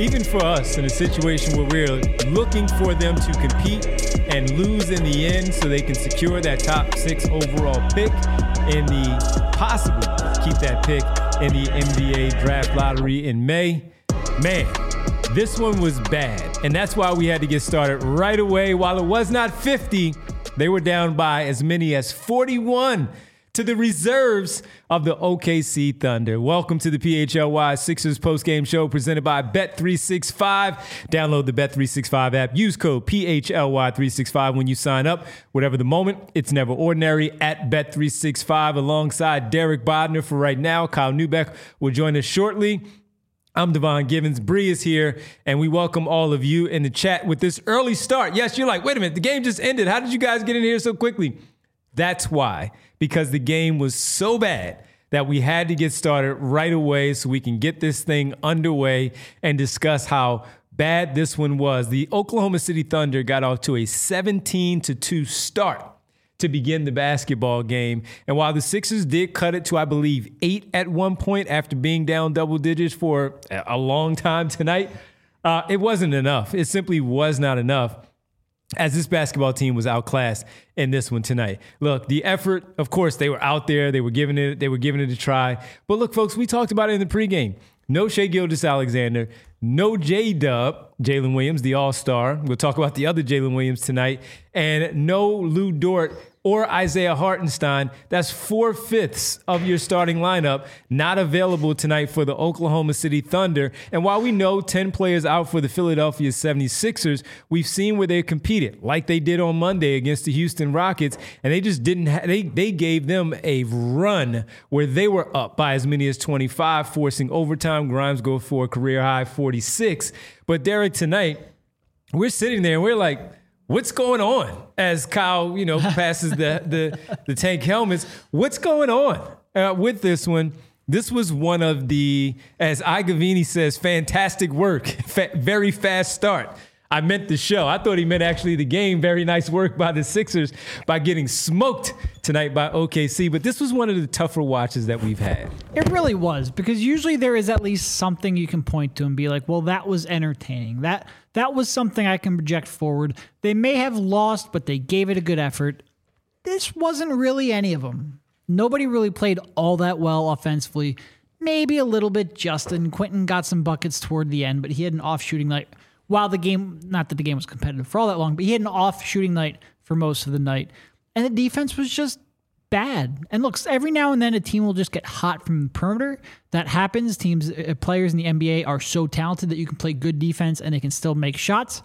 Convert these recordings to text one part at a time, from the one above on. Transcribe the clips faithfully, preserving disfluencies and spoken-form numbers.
even for us in a situation where we're looking for them to compete and lose in the end so they can secure that top six overall pick in the possibly keep that pick in the N B A draft lottery in May. Man, this one was bad. And that's why we had to get started right away. While it was not fifty, they were down by as many as forty-one to the reserves of the O K C Thunder. Welcome to the P H L Y Sixers postgame show presented by Bet three sixty-five. Download the Bet three sixty-five app. Use code P H L Y three sixty-five when you sign up. Whatever the moment, it's never ordinary at Bet three sixty-five alongside Derek Bodner for right now. Kyle Neubeck will join us shortly. I'm Devon Givens. Bree is here, and we welcome all of you in the chat with this early start. Yes, you're like, wait a minute, the game just ended. How did you guys get in here so quickly? That's why, because the game was so bad that we had to get started right away so we can get this thing underway and discuss how bad this one was. The Oklahoma City Thunder got off to a seventeen to two start to begin the basketball game. And while the Sixers did cut it to, I believe, eight at one point after being down double digits for a long time tonight, uh, it wasn't enough. It simply was not enough, as this basketball team was outclassed in this one tonight. Look, the effort, of course, they were out there. They were giving it, they were giving it a try. But look, folks, we talked about it in the pregame. No Shai Gilgeous-Alexander, no J-Dub, Jalen Williams, the all-star. We'll talk about the other Jalen Williams tonight. And no Lou Dort or Isaiah Hartenstein. That's four-fifths of your starting lineup not available tonight for the Oklahoma City Thunder. And while we know ten players out for the Philadelphia seventy-sixers, we've seen where they competed, like they did on Monday against the Houston Rockets, and they just didn't ha- they they gave them a run where they were up by as many as twenty-five, forcing overtime. Grimes go for a career-high forty-six. But Derek, tonight, we're sitting there and we're like, what's going on? As Kyle, you know, passes the the, the tank helmets, what's going on uh, with this one? This was one of the, as Igavini says, fantastic work, fa- very fast start. I meant the show. I thought he meant actually the game. Very nice work by the Sixers by getting smoked tonight by O K C. But this was one of the tougher watches that we've had. It really was, because usually there is at least something you can point to and be like, well, that was entertaining. That that was something I can project forward. They may have lost, but they gave it a good effort. This wasn't really any of them. Nobody really played all that well offensively. Maybe a little bit Justin. Quentin got some buckets toward the end, but he had an off shooting night. While the game, not that the game was competitive for all that long, but he had an off shooting night for most of the night. And the defense was just bad. And look, every now and then a team will just get hot from the perimeter. That happens. Teams, uh, players in the N B A are so talented that you can play good defense and they can still make shots.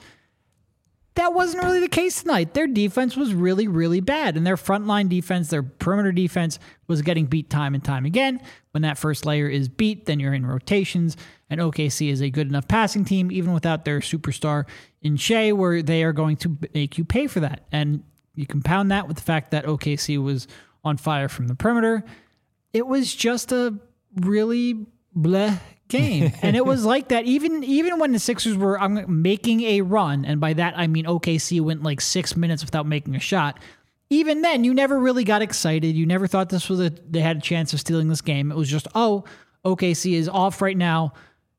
That wasn't really the case tonight. Their defense was really, really bad. And their frontline defense, their perimeter defense was getting beat time and time again. When that first layer is beat, then you're in rotations. And O K C is a good enough passing team, even without their superstar in Shai, where they are going to make you pay for that. And you compound that with the fact that O K C was on fire from the perimeter. It was just a really bleh game. And it was like that even even when the Sixers were um, making a run, and by that I mean O K C went like six minutes without making a shot. Even then, you never really got excited. You never thought this was a they had a chance of stealing this game. It was just, oh, O K C is off right now.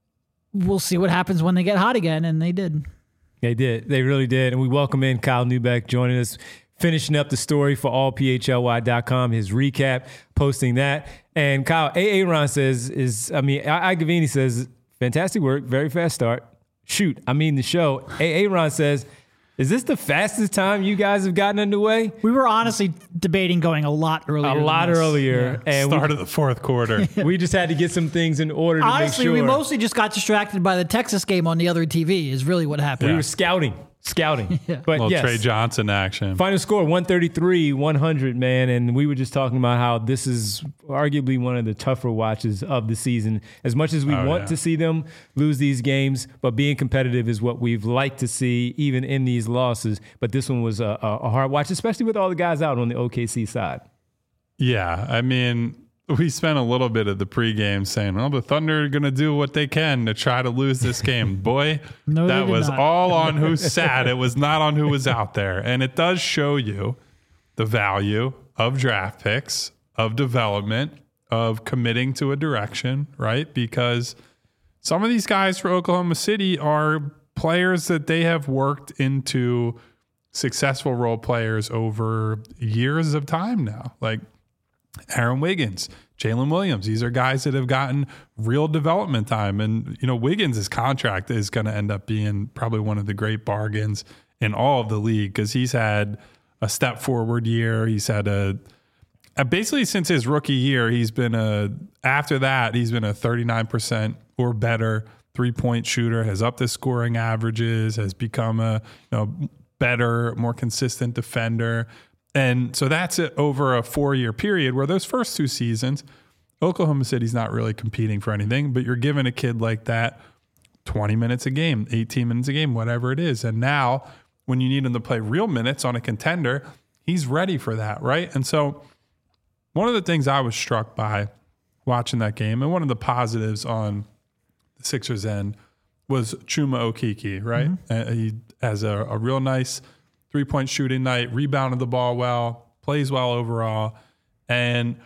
We'll see what happens when they get hot again, and they did. They did. They really did. And we welcome in Kyle Neubeck joining us, finishing up the story for all P H L Y dot com, his recap, posting that. And Kyle, A A. Ron says, is I mean, Igavini says, fantastic work, very fast start. Shoot, I mean the show. A A. Ron says, is this the fastest time you guys have gotten underway? We were honestly debating going a lot earlier. A lot this. earlier. Yeah. And Start we, of the fourth quarter. We just had to get some things in order to honestly, make sure. We mostly just got distracted by the Texas game on the other T V is really what happened. We were scouting. Scouting. Yeah. But little yes. Trey Johnson action. Final score, one thirty-three, one hundred, man. And we were just talking about how this is arguably one of the tougher watches of the season. As much as we oh, want yeah. to see them lose these games, but being competitive is what we've liked to see even in these losses. But this one was a, a hard watch, especially with all the guys out on the O K C side. Yeah, I mean, we spent a little bit of the pregame saying, well, the Thunder are going to do what they can to try to lose this game. Boy, no, that was not. all on who sat. It was not on who was out there. And it does show you the value of draft picks, of development, of committing to a direction, right? Because some of these guys for Oklahoma City are players that they have worked into successful role players over years of time now. Like Aaron Wiggins, Jalen Williams. These are guys that have gotten real development time. And, you know, Wiggins' contract is going to end up being probably one of the great bargains in all of the league because he's had a step forward year. He's had a, a basically since his rookie year, he's been a, after that, he's been a thirty-nine percent or better three-point shooter, has upped his scoring averages, has become a, you know, better, more consistent defender. And so that's it over a four-year period where those first two seasons, Oklahoma City's not really competing for anything, but you're giving a kid like that twenty minutes a game, eighteen minutes a game, whatever it is. And now when you need him to play real minutes on a contender, he's ready for that, right? And so one of the things I was struck by watching that game, and one of the positives on the Sixers end, was Chuma Okeke, right? Mm-hmm. Uh, he has a, a real nice three-point shooting night, rebounded the ball well, plays well overall. And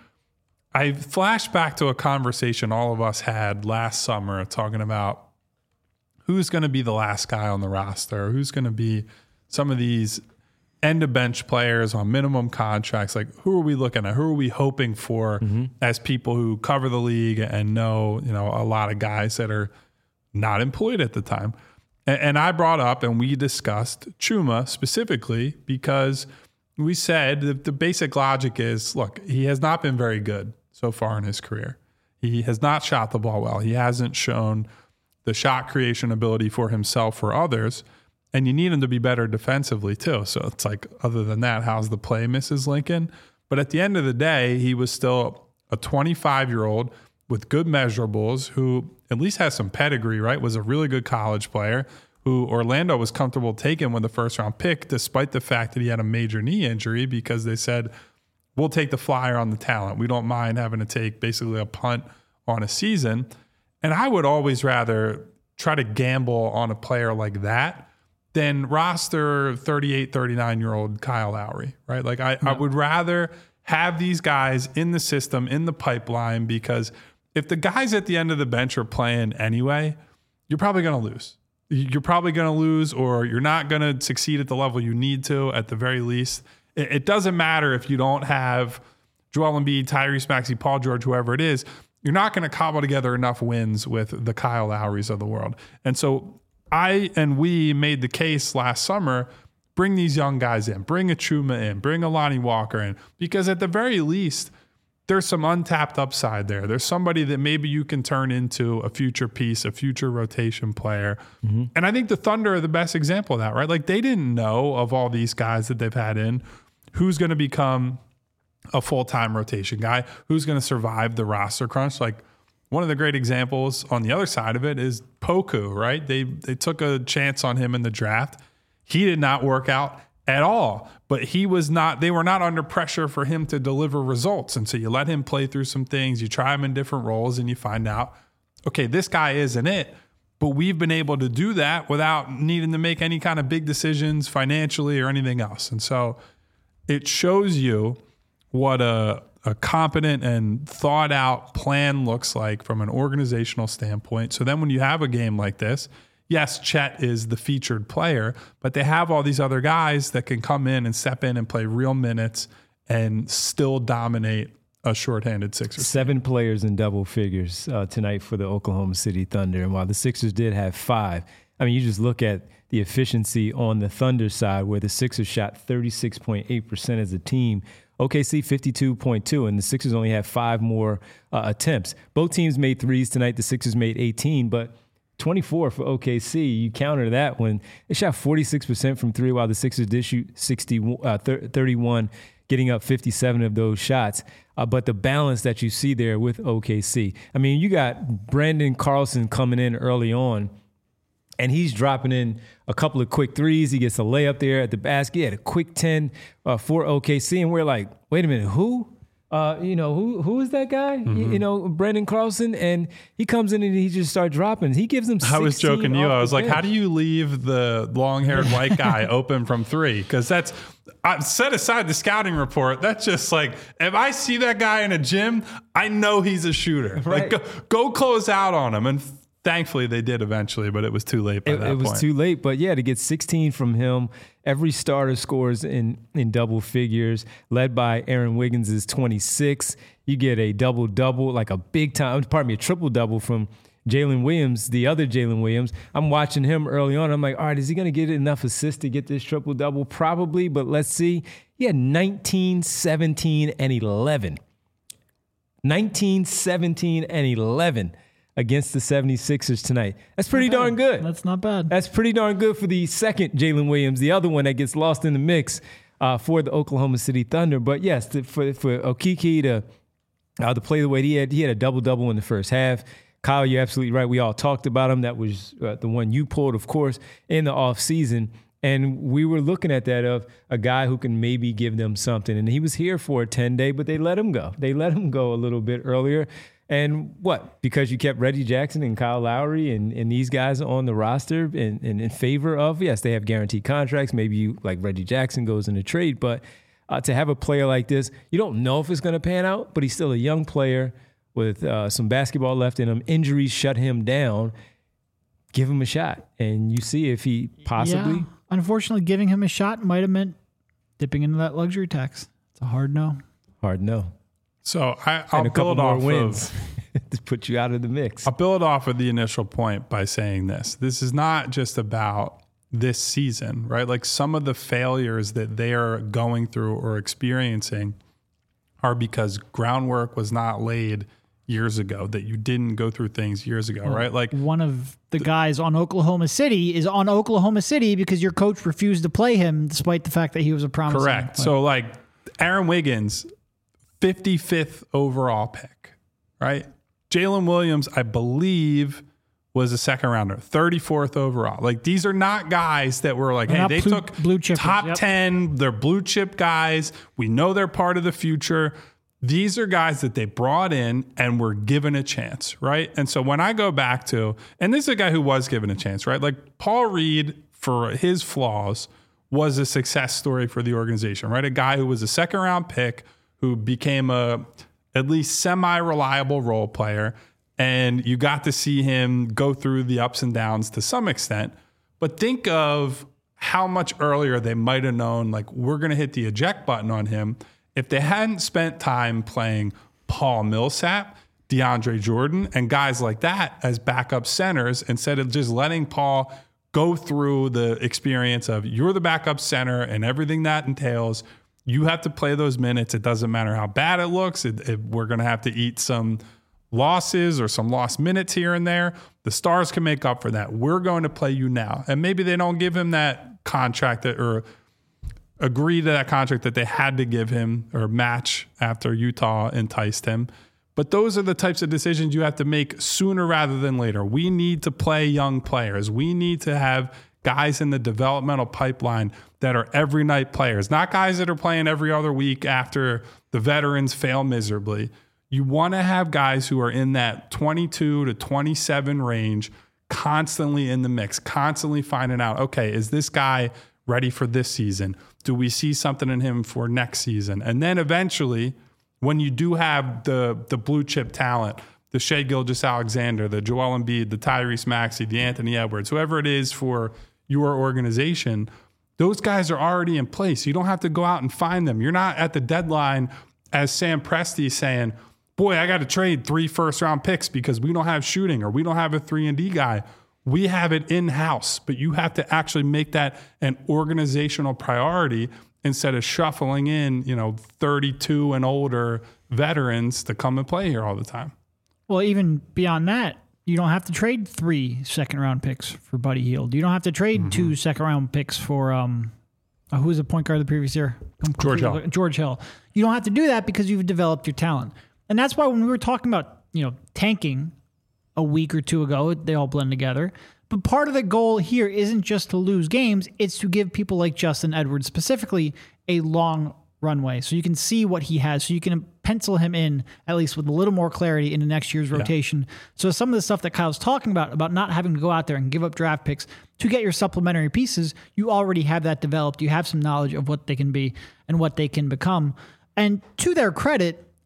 I flashed back to a conversation all of us had last summer talking about who's going to be the last guy on the roster, who's going to be some of these end-of-bench players on minimum contracts. Like, who are we looking at? Who are we hoping for mm-hmm. as people who cover the league and know, you know, a lot of guys that are not employed at the time? And I brought up and we discussed Chuma specifically because we said that the basic logic is, look, he has not been very good so far in his career. He has not shot the ball well. He hasn't shown the shot creation ability for himself or others. And you need him to be better defensively too. So it's like, other than that, how's the play, Missus Lincoln? But at the end of the day, he was still a twenty-five-year-old with good measurables who at least has some pedigree, right? Was a really good college player who Orlando was comfortable taking with the first round pick, despite the fact that he had a major knee injury, because they said, we'll take the flyer on the talent. We don't mind having to take basically a punt on a season. And I would always rather try to gamble on a player like that than roster thirty-eight, thirty-nine-year-old Kyle Lowry, right? Like I, yeah. I would rather have these guys in the system, in the pipeline, because if the guys at the end of the bench are playing anyway, you're probably going to lose. You're probably going to lose, or you're not going to succeed at the level you need to at the very least. It, it doesn't matter if you don't have Joel Embiid, Tyrese Maxey, Paul George, whoever it is. You're not going to cobble together enough wins with the Kyle Lowrys of the world. And so I and we made the case last summer, bring these young guys in, bring a Chuma in, bring a Lonnie Walker in, because at the very least, there's some untapped upside there. There's somebody that maybe you can turn into a future piece, a future rotation player. Mm-hmm. And I think the Thunder are the best example of that, right? Like, they didn't know of all these guys that they've had in, who's going to become a full-time rotation guy, who's going to survive the roster crunch. Like, one of the great examples on the other side of it is Poku, right? They they took a chance on him in the draft. He did not work out at all, but he was not, they were not under pressure for him to deliver results. And so you let him play through some things, you try him in different roles, and you find out, okay, this guy isn't it. But we've been able to do that without needing to make any kind of big decisions financially or anything else. And so it shows you what a, a competent and thought out plan looks like from an organizational standpoint. So then when you have a game like this, yes, Chet is the featured player, but they have all these other guys that can come in and step in and play real minutes and still dominate a shorthanded Sixers. Seven players in double figures uh, tonight for the Oklahoma City Thunder. And while the Sixers did have five, I mean, you just look at the efficiency on the Thunder side, where the Sixers shot thirty-six point eight percent as a team. O K C fifty-two point two, and the Sixers only had five more uh, attempts. Both teams made threes tonight. The Sixers made eighteen, but twenty-four for O K C. You counter that when they shot forty-six percent from three, while the Sixers did shoot sixty, uh, thirty-one, getting up fifty-seven of those shots. Uh, but the balance that you see there with O K C. I mean, you got Brandon Carlson coming in early on, and he's dropping in a couple of quick threes. He gets a layup there at the basket. He had a quick ten uh, for O K C, and we're like, wait a minute, who? Uh, you know, who who is that guy? Mm-hmm. You, you know, Brandon Carlson, and he comes in and he just starts dropping. He gives them sixteen. I was joking to you. I was like, bench. How do you leave the long-haired white guy open from three? Because that's, I set aside the scouting report. That's just like, if I see that guy in a gym, I know he's a shooter. Right. Like, go, go close out on him. And Thankfully, they did eventually, but it was too late by It, that it was point. too late. But yeah, to get sixteen from him, every starter scores in, in double figures, led by Aaron Wiggins' twenty-six. You get a double-double, like a big time, pardon me, a triple-double from Jalen Williams, the other Jalen Williams. I'm watching him early on. I'm like, all right, is he going to get enough assists to get this triple-double? Probably, but let's see. He had nineteen, seventeen, and eleven. nineteen, seventeen, and eleven against the seventy-sixers tonight. That's pretty Not bad. darn good. That's not bad. That's pretty darn good for the second Jalen Williams, the other one that gets lost in the mix uh, for the Oklahoma City Thunder. But yes, to, for for Okeke to uh, to play the way he had, he had a double-double in the first half. Kyle, you're absolutely right. We all talked about him. That was uh, the one you pulled, of course, in the offseason. And we were looking at that of a guy who can maybe give them something. And he was here for a ten-day, but they let him go. They let him go a little bit earlier. And what? Because you kept Reggie Jackson and Kyle Lowry and, and these guys on the roster in, in, in favor of, yes, they have guaranteed contracts. Maybe you, like Reggie Jackson goes in a trade. But uh, to have a player like this, you don't know if it's going to pan out, but he's still a young player with uh, some basketball left in him. Injuries shut him down. Give him a shot, and you see if he possibly. Yeah. Unfortunately, giving him a shot might have meant dipping into that luxury tax. It's a hard no. Hard no. So I, I'll And a couple build more off wins of to put you out of the mix. I'll build off of the initial point by saying this. This is not just about this season, right? Like some of the failures that they are going through or experiencing are because groundwork was not laid years ago, that you didn't go through things years ago, well, right? Like one of the guys on Oklahoma City is on Oklahoma City because your coach refused to play him despite the fact that he was a promising correct. player. So like Aaron Wiggins, fifty-fifth overall pick, right? Jalen Williams, I believe, was a second rounder, thirty-fourth overall. Like these are not guys that were like, They're hey, not they blue- took blue chippers, top yep. ten. They're blue chip guys. We know they're part of the future. These are guys that they brought in and were given a chance, right? And so when I go back to, and this is a guy who was given a chance, right? Like Paul Reed, for his flaws, was a success story for the organization, right? A guy who was a second round pick who became a at least semi-reliable role player. And you got to see him go through the ups and downs to some extent. But think of how much earlier they might have known, like, we're going to hit the eject button on him if they hadn't spent time playing Paul Millsap, DeAndre Jordan, and guys like that as backup centers instead of just letting Paul go through the experience of you're the backup center and everything that entails. You have to play those minutes. It doesn't matter how bad it looks. It, it, we're going to have to eat some losses or some lost minutes here and there. The Stars can make up for that. We're going to play you now. And maybe they don't give him that contract that, or agree to that contract that they had to give him or match after Utah enticed him. But those are the types of decisions you have to make sooner rather than later. We need to play young players. We need to have guys in the developmental pipeline that are every night players, not guys that are playing every other week after the veterans fail miserably. You want to have guys who are in that twenty-two to twenty-seven range, constantly in the mix, constantly finding out, okay, is this guy ready for this season? Do we see something in him for next season? And then eventually, when you do have the the blue chip talent, the Shai Gilgeous-Alexander, the Joel Embiid, the Tyrese Maxey, the Anthony Edwards, whoever it is for your organization, those guys are already in place. You don't have to go out and find them. You're not at the deadline as Sam Presti saying, boy, I got to trade three first round picks because we don't have shooting or we don't have a three and D guy. We have it in-house, but you have to actually make that an organizational priority instead of shuffling in, you know, thirty-two and older veterans to come and play here all the time. Well, even beyond that, you don't have to trade three second-round picks for Buddy Hield. You don't have to trade mm-hmm. two second-round picks for um, uh, who was the point guard the previous year? George Hill. George Hill. You don't have to do that because you've developed your talent. And that's why when we were talking about, you know, tanking a week or two ago, they all blend together. But part of the goal here isn't just to lose games, it's to give people like Justin Edwards specifically a long runway so you can see what he has, so you can pencil him in at least with a little more clarity into next year's rotation. Yeah. So some of the stuff that Kyle's talking about, about not having to go out there and give up draft picks to get your supplementary pieces, you already have that developed. You have some knowledge of what they can be and what they can become. And to their credit,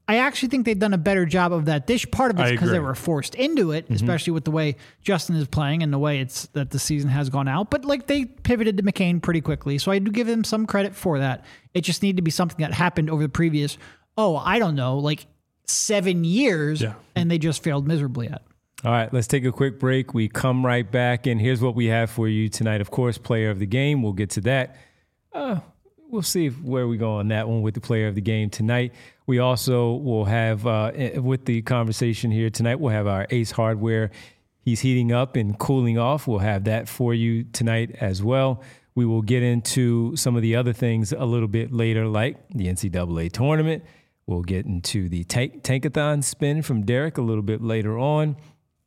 I actually think they've done a better job of that this part of it's I because they agree. were forced into it, Mm-hmm. especially with the way Justin is playing and the way it's that the season has gone out. But like they pivoted to McCain pretty quickly. So I do give them some credit for that. It just needed to be something that happened over the previous, oh, I don't know, like seven years, Yeah. and they just failed miserably at. All right, let's take a quick break. We come right back, and here's what we have for you tonight. Of course, player of the game. We'll get to that. Uh, we'll see if, where we go on that one with the player of the game tonight. We also will have, uh, with the conversation here tonight, we'll have our Ace Hardware. He's heating up and cooling off. We'll have that for you tonight as well. We will get into some of the other things a little bit later, like the N C double A tournament. We'll get into the tank, Tankathon spin from Derek a little bit later on.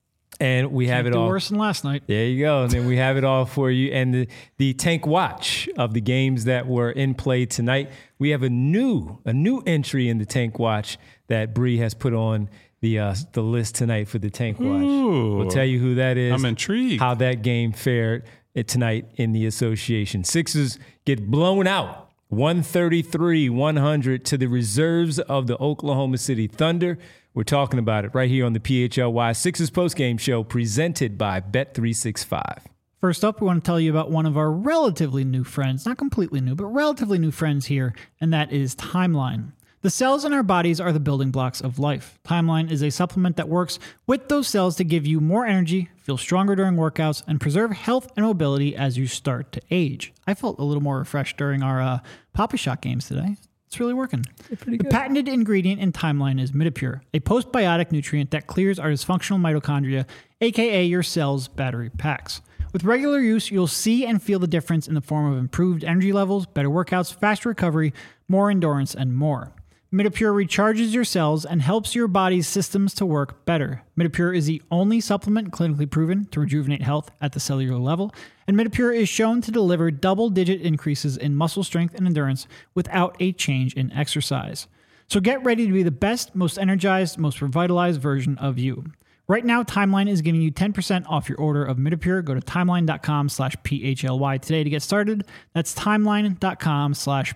And we have Can't it do all. worse than last night. There you go. And then we have it all for you. And the, the tank watch of the games that were in play tonight. We have a new a new entry in the tank watch that Bree has put on the uh, the list tonight for the tank watch. Ooh. We'll tell you who that is. I'm intrigued. How that game fared tonight in the association. Sixers get blown out one thirty-three one hundred to the reserves of the Oklahoma City Thunder. We're talking about it right here on the P H L Y Sixers postgame show presented by Bet three sixty-five. First up, we want to tell you about one of our relatively new friends, not completely new, but relatively new friends here, and that is Timeline. The cells in our bodies are the building blocks of life. Timeline is a supplement that works with those cells to give you more energy, feel stronger during workouts, and preserve health and mobility as you start to age. I felt a little more refreshed during our uh, Papa Shot games today. It's really working. pretty The good. patented ingredient in Timeline is Midipure, a postbiotic nutrient that clears our dysfunctional mitochondria, aka your cell's battery packs. With regular use, you'll see and feel the difference in the form of improved energy levels, better workouts, faster recovery, more endurance, and more. Midipure recharges your cells and helps your body's systems to work better. Midipure is the only supplement clinically proven to rejuvenate health at the cellular level, and Midipure is shown to deliver double-digit increases in muscle strength and endurance without a change in exercise. So get ready to be the best, most energized, most revitalized version of you. Right now, Timeline is giving you ten percent off your order of Midipure. Go to timeline.com slash PHLY today to get started. That's timeline.com slash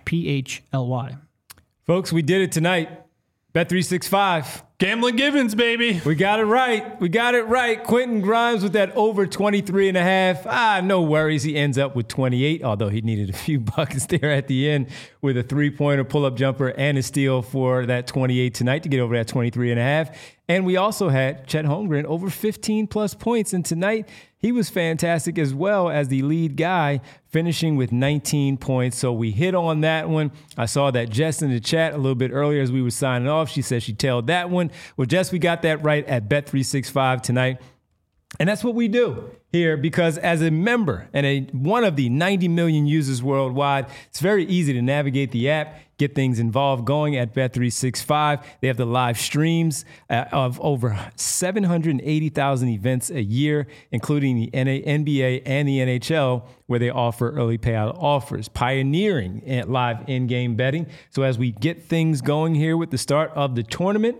PHLY. Folks, we did it tonight. Bet three sixty-five. Gambling Givens, baby. We got it right. We got it right. Quentin Grimes with that over twenty-three and a half. Ah, no worries. He ends up with twenty-eight, although he needed a few buckets there at the end with a three-pointer, pull-up jumper, and a steal for that twenty-eight tonight to get over that twenty-three and a half. And we also had Chet Holmgren over fifteen plus points. And tonight, he was fantastic as well as the lead guy, finishing with nineteen points. So we hit on that one. I saw that Jess in the chat a little bit earlier as we were signing off. She said she tailed that one. Well, Jess, we got that right at Bet three sixty-five tonight. And that's what we do here because as a member and a one of the ninety million users worldwide, it's very easy to navigate the app, get things involved going at Bet three sixty-five. They have the live streams uh, of over seven hundred eighty thousand events a year, including the N B A and the N H L, where they offer early payout offers, pioneering at live in-game betting. So as we get things going here with the start of the tournament,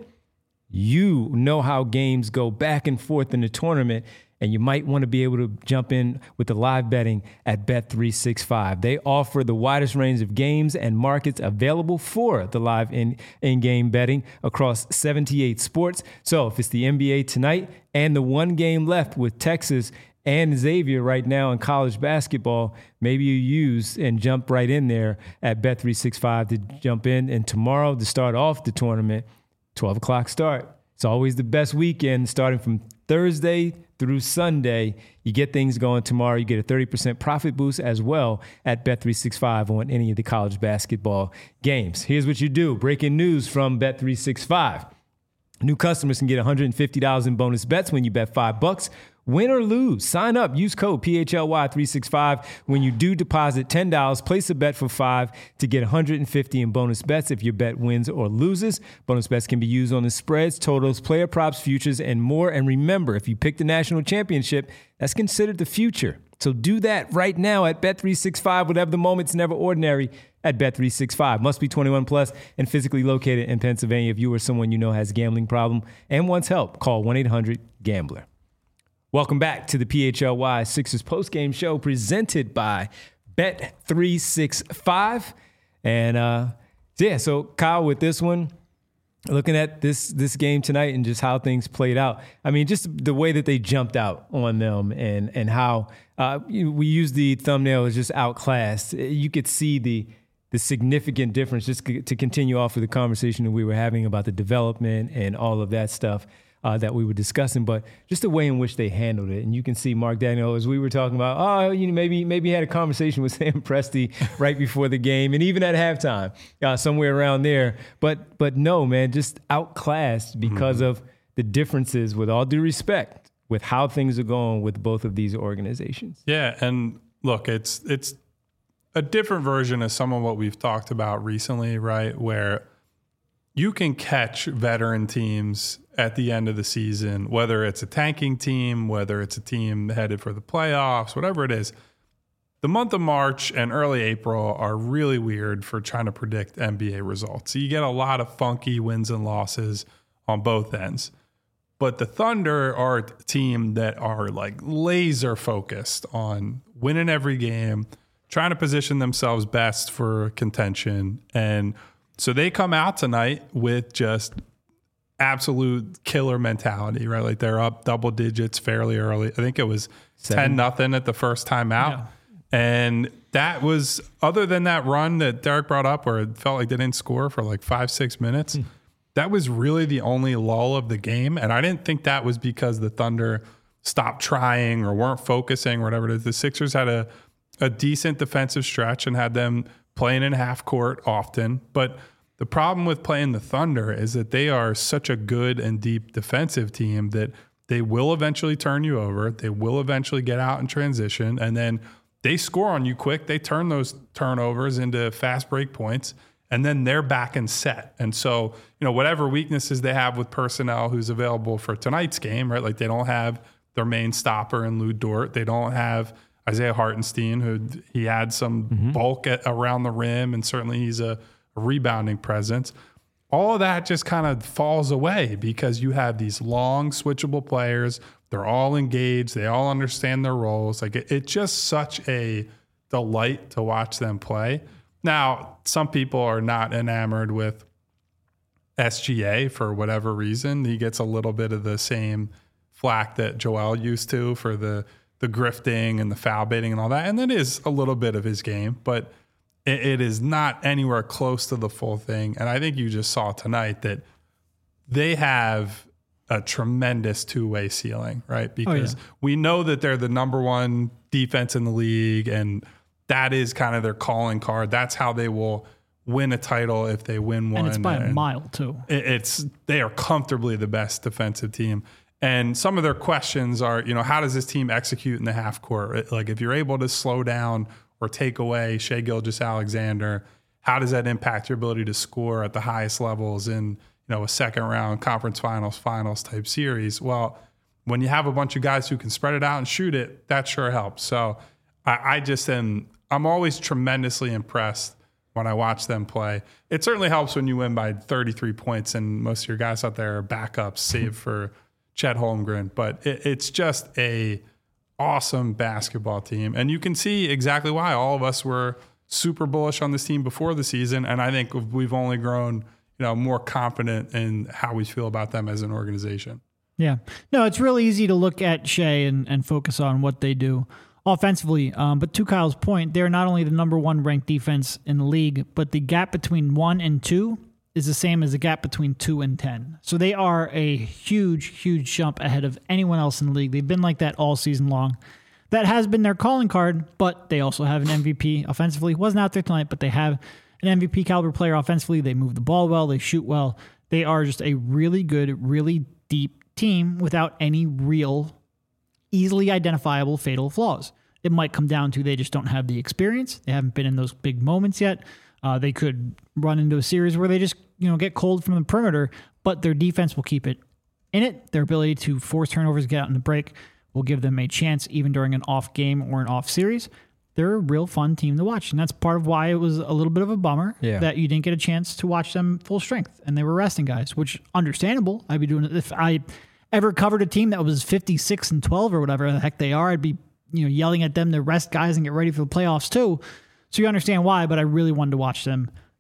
you know how games go back and forth in the tournament, and you might want to be able to jump in with the live betting at Bet three sixty-five. They offer the widest range of games and markets available for the live in, in-game betting across seventy-eight sports. So if it's the N B A tonight and the one game left with Texas and Xavier right now in college basketball, maybe you use and jump right in there at Bet three sixty-five to jump in. And tomorrow to start off the tournament, twelve o'clock start. It's always the best weekend starting from Thursday through Sunday. You get things going tomorrow. You get a thirty percent profit boost as well at Bet three sixty-five on any of the college basketball games. Here's what you do. Breaking news from Bet three sixty-five. New customers can get one hundred fifty dollars in bonus bets when you bet five bucks. Win or lose, sign up. Use code P H L Y three sixty-five when you do deposit ten dollars. Place a bet for five to get one hundred fifty dollars in bonus bets if your bet wins or loses. Bonus bets can be used on the spreads, totals, player props, futures, and more. And remember, if you pick the national championship, that's considered the future. So do that right now at Bet three sixty-five. Whatever the moment's never ordinary at Bet three sixty-five. Must be twenty-one plus and physically located in Pennsylvania. If you or someone you know has a gambling problem and wants help, call one eight hundred gambler. Welcome back to the P H L Y Sixers postgame show presented by Bet three sixty-five. And uh, yeah, so Kyle, with this one, looking at this this game tonight and just how things played out, I mean, just the way that they jumped out on them and and how uh, we used the thumbnail as just outclassed. You could see the the significant difference, just to continue off of the conversation that we were having about the development and all of that stuff uh, that we were discussing, but just the way in which they handled it. And you can see Mark Daigneault, as we were talking about, oh, you know, maybe maybe he had a conversation with Sam Presti right before the game and even at halftime, uh, somewhere around there. But but no, man, just outclassed because mm-hmm. of the differences, with all due respect, with how things are going with both of these organizations. Yeah, and look, it's it's a different version of some of what we've talked about recently, right? Where you can catch veteran teams at the end of the season, whether it's a tanking team, whether it's a team headed for the playoffs, whatever it is. The month of March and early April are really weird for trying to predict N B A results. So you get a lot of funky wins and losses on both ends. But the Thunder are a team that are like laser focused on winning every game, trying to position themselves best for contention. And so they come out tonight with just absolute killer mentality, right? Like they're up double digits fairly early. I think it was ten nothing at the first time out. Yeah. And that was, other than that run that Derek brought up where it felt like they didn't score for like five, six minutes, hmm. that was really the only lull of the game. And I didn't think that was because the Thunder stopped trying or weren't focusing or whatever it is. The Sixers had a a decent defensive stretch and had them playing in half court often. But the problem with playing the Thunder is that they are such a good and deep defensive team that they will eventually turn you over. They will eventually get out in transition, and then they score on you quick. They turn those turnovers into fast break points, and then they're back and set. And so, you know, whatever weaknesses they have with personnel who's available for tonight's game, right? Like they don't have their main stopper in Lou Dort. They don't have Isaiah Hartenstein, who he had some mm-hmm. bulk at, around the rim, and certainly he's a, a rebounding presence. All of that just kind of falls away because you have these long switchable players. They're all engaged. They all understand their roles. Like it, it's just such a delight to watch them play. Now, some people are not enamored with S G A for whatever reason. He gets a little bit of the same flack that Joel used to for the the grifting and the foul baiting and all that. And that is a little bit of his game, but it, it is not anywhere close to the full thing. And I think you just saw tonight that they have a tremendous two-way ceiling, right? Because oh, yeah. we know that they're the number one defense in the league, and that is kind of their calling card. That's how they will win a title if they win one. And it's by and a mile, too. It, it's they are comfortably the best defensive team. And some of their questions are, you know, how does this team execute in the half court? Like if you're able to slow down or take away Shai Gilgeous-Alexander, how does that impact your ability to score at the highest levels in, you know, a second round conference finals, finals type series? Well, when you have a bunch of guys who can spread it out and shoot it, that sure helps. So I, I just am, I'm always tremendously impressed when I watch them play. It certainly helps when you win by thirty-three points and most of your guys out there are backups, save for Chet Holmgren, but it, it's just a awesome basketball team. And you can see exactly why all of us were super bullish on this team before the season. And I think we've only grown, you know, more confident in how we feel about them as an organization. Yeah. No, it's really easy to look at Shai and, and focus on what they do offensively. Um, but to Kyle's point, they're not only the number one ranked defense in the league, but the gap between one and two is the same as the gap between two and ten. So they are a huge, huge jump ahead of anyone else in the league. They've been like that all season long. That has been their calling card, but they also have an M V P offensively. He wasn't out there tonight, but they have an M V P caliber player offensively. They move the ball well. They shoot well. They are just a really good, really deep team without any real, easily identifiable fatal flaws. It might come down to they just don't have the experience. They haven't been in those big moments yet. Uh, they could run into a series where they just, you know, get cold from the perimeter, but their defense will keep it in it. Their ability to force turnovers, get out in the break, will give them a chance even during an off game or an off series. They're a real fun team to watch, and that's part of why it was a little bit of a bummer yeah. that you didn't get a chance to watch them full strength, and they were resting guys, which understandable. I'd be doing it if I ever covered a team that was fifty-six and twelve or whatever the heck they are. I'd be, you know, yelling at them to rest guys and get ready for the playoffs too. So you understand why, but I really wanted to watch them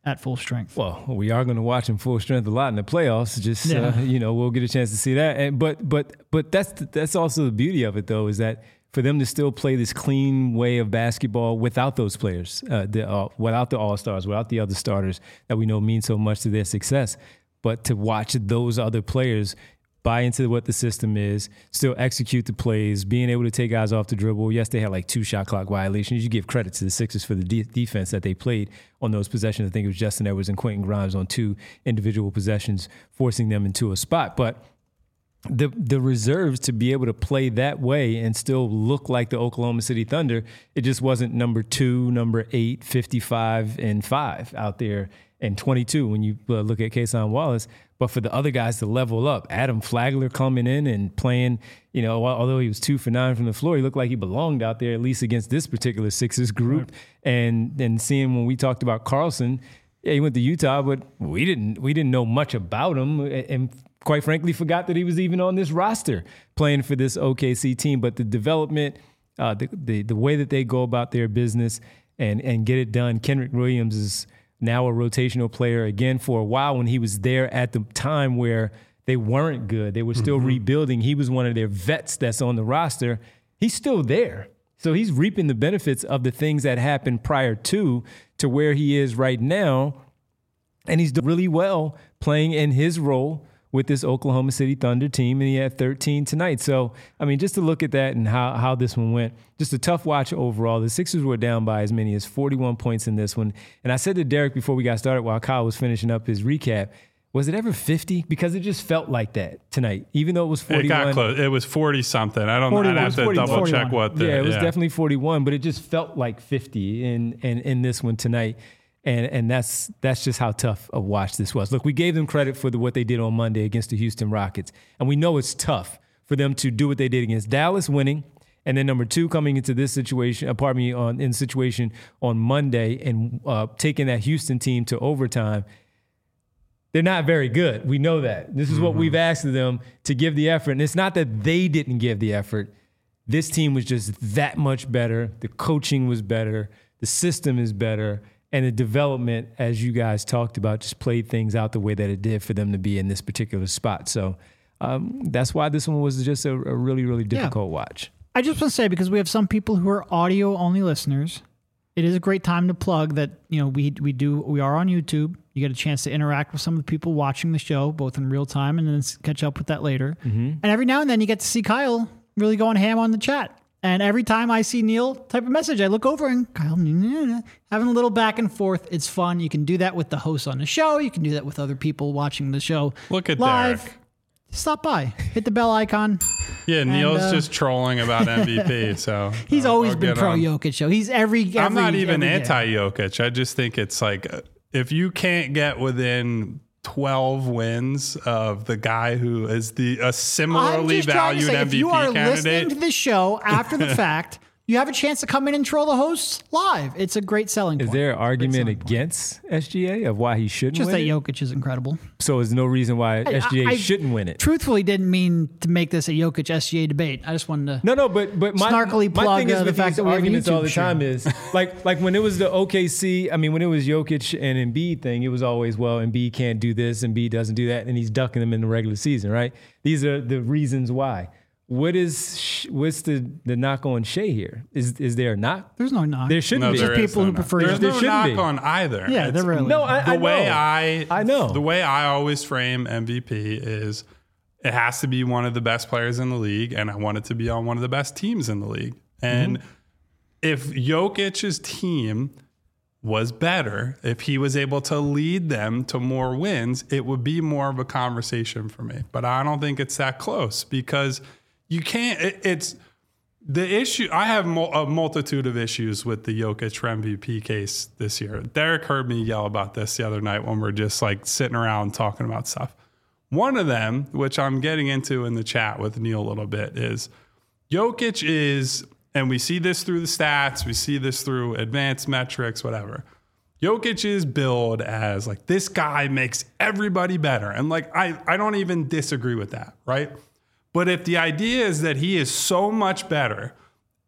at full strength. Well, we are going to watch him full strength a lot in the playoffs. Just Yeah. uh, you know, we'll get a chance to see that. And, but but but that's that's also the beauty of it, though, is that for them to still play this clean way of basketball without those players, uh, the, uh, without the all-stars, without the other starters that we know mean so much to their success, but to watch those other players buy into what the system is, still execute the plays, being able to take guys off the dribble. Yes, they had like two shot clock violations. You give credit to the Sixers for the de- defense that they played on those possessions. I think it was Justin Edwards and Quentin Grimes on two individual possessions, forcing them into a spot. But the the reserves to be able to play that way and still look like the Oklahoma City Thunder, it just wasn't number two, number eight, fifty-five, and five out there, and twenty-two when you uh, look at Kason Wallace. But for the other guys to level up, Adam Flagler coming in and playing, you know, although he was two for nine from the floor, he looked like he belonged out there, at least against this particular Sixers group. Right. And and seeing when we talked about Carlson, yeah, he went to Utah, but we didn't we didn't know much about him, and quite frankly, forgot that he was even on this roster playing for this O K C team. But the development, uh, the, the the way that they go about their business and and get it done. Kenrich Williams is now a rotational player again. For a while when he was there at the time where they weren't good, they were still mm-hmm. rebuilding. He was one of their vets that's on the roster. He's still there. So he's reaping the benefits of the things that happened prior to, to where he is right now. And he's doing really well playing in his role with this Oklahoma City Thunder team, and he had thirteen tonight. So, I mean, just to look at that and how, how this one went, just a tough watch overall. The Sixers were down by as many as forty-one points in this one. And I said to Derek before we got started while Kyle was finishing up his recap, was it ever fifty? Because it just felt like that tonight, even though it was forty-one. It got close. It was forty-something. I don't know. I'd have to forty, double forty-one. check what the... Yeah, it was yeah. definitely forty-one, but it just felt like fifty in, in, in this one tonight. And and that's that's just how tough a watch this was. Look, we gave them credit for the, what they did on Monday against the Houston Rockets. And we know it's tough for them to do what they did against Dallas, winning. And then number two, coming into this situation, uh, pardon me, on, in situation on Monday and uh, taking that Houston team to overtime. They're not very good. We know that. This is mm-hmm. what we've asked of them, to give the effort. And it's not that they didn't give the effort. This team was just that much better. The coaching was better. The system is better. And the development, as you guys talked about, just played things out the way that it did for them to be in this particular spot. So um, that's why this one was just a, a really, really difficult yeah. watch. I just want to say, because we have some people who are audio-only listeners, it is a great time to plug that, you know, we we do we are on YouTube. You get a chance to interact with some of the people watching the show, both in real time and then catch up with that later. Mm-hmm. And every now and then you get to see Kyle really going ham on the chat. And every time I see Neil type a message, I look over and Kyle having a little back and forth. It's fun. You can do that with the hosts on the show. You can do that with other people watching the show Look at live. Derek. Stop by. Hit the bell icon. Yeah, and, Neil's uh, just trolling about M V P. So he's I'll, always I'll been pro on. Jokic show. He's every, every I'm not even every anti-Jokic. I just think it's like, if you can't get within twelve wins of the guy who is the a similarly valued say, M V P if you are candidate. listening to this show after the fact, you have a chance to come in and troll the hosts live. It's a great selling point. Is there an argument against S G A of why he shouldn't Just win that it? Jokic is incredible. So there's no reason why I, S G A I, shouldn't win it. Truthfully, didn't mean to make this a Jokic S G A debate. I just wanted to No, no, but but my, snarkily my plug thing is uh, the with fact these that we have a arguments YouTube all the show. time is like like when it was the O K C. I mean, when it was Jokic and Embiid thing, it was always, well, Embiid can't do this, Embiid doesn't do that, and he's ducking them in the regular season, right? These are the reasons why. What is what's the, the knock on Shea here? Is is there a knock? There's no knock. There shouldn't No, be. there Just is people no who knock. prefer There's There no shouldn't knock be. on either. Yeah, It's- there really No, I, the I know. way I I know. the way I always frame M V P is it has to be one of the best players in the league, and I want it to be on one of the best teams in the league. And mm-hmm. if Jokic's team was better, if he was able to lead them to more wins, it would be more of a conversation for me. But I don't think it's that close, because you can't. It, it's the issue. I have mo- a multitude of issues with the Jokic for M V P case this year. Derek heard me yell about this the other night when we're just like sitting around talking about stuff. One of them, which I'm getting into in the chat with Neil a little bit, is Jokic is, and we see this through the stats, we see this through advanced metrics, whatever. Jokic is billed as like, this guy makes everybody better. And like, I, I don't even disagree with that, right? But if the idea is that he is so much better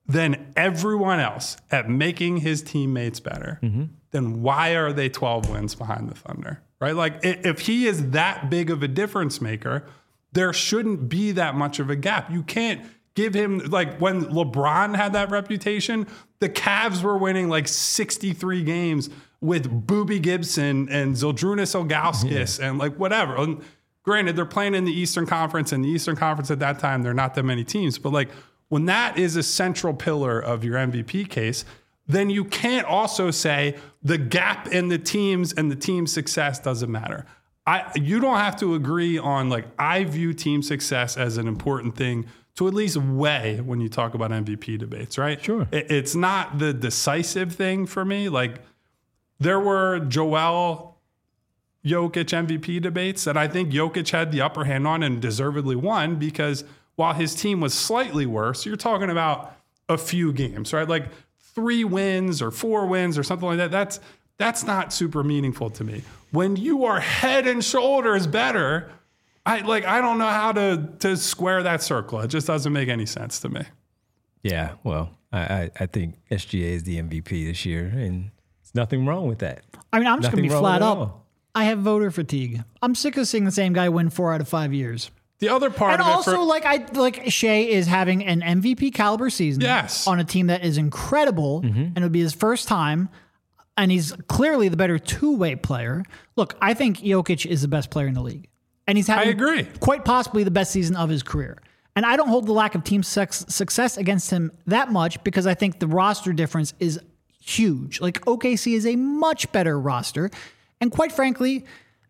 than everyone else at making his teammates better, mm-hmm. then why are they twelve wins behind the Thunder? Right? Like, if he is that big of a difference maker, there shouldn't be that much of a gap. You can't give him, like, when LeBron had that reputation, the Cavs were winning like sixty-three games with Boobie Gibson and Zydrunas Ilgauskas yeah. and like whatever. And granted, they're playing in the Eastern Conference, and the Eastern Conference at that time, there are not that many teams. But like, when that is a central pillar of your M V P case, then you can't also say the gap in the teams and the team success doesn't matter. I you don't have to agree on, like, I view team success as an important thing to at least weigh when you talk about M V P debates, right? Sure. It, it's not the decisive thing for me. Like, there were Joel Jokic M V P debates that I think Jokic had the upper hand on and deservedly won, because while his team was slightly worse, you're talking about a few games, right? Like three wins or four wins or something like that. That's that's not super meaningful to me. When you are head and shoulders better, I like I don't know how to to square that circle. It just doesn't make any sense to me. Yeah, well, I I, I think S G A is the M V P this year, and there's nothing wrong with that. I mean, I'm just Nothing gonna be wrong flat with it up. all. I have voter fatigue. I'm sick of seeing the same guy win four out of five years. The other part And of it also, for, like I like Shea is having an M V P caliber season Yes. on a team that is incredible, and it would be his first time. And he's clearly the better two-way player. Look, I think Jokic is the best player in the league, and he's having I agree. quite possibly the best season of his career. And I don't hold the lack of team sex- success against him that much, because I think the roster difference is huge. Like, O K C is a much better roster, and quite frankly,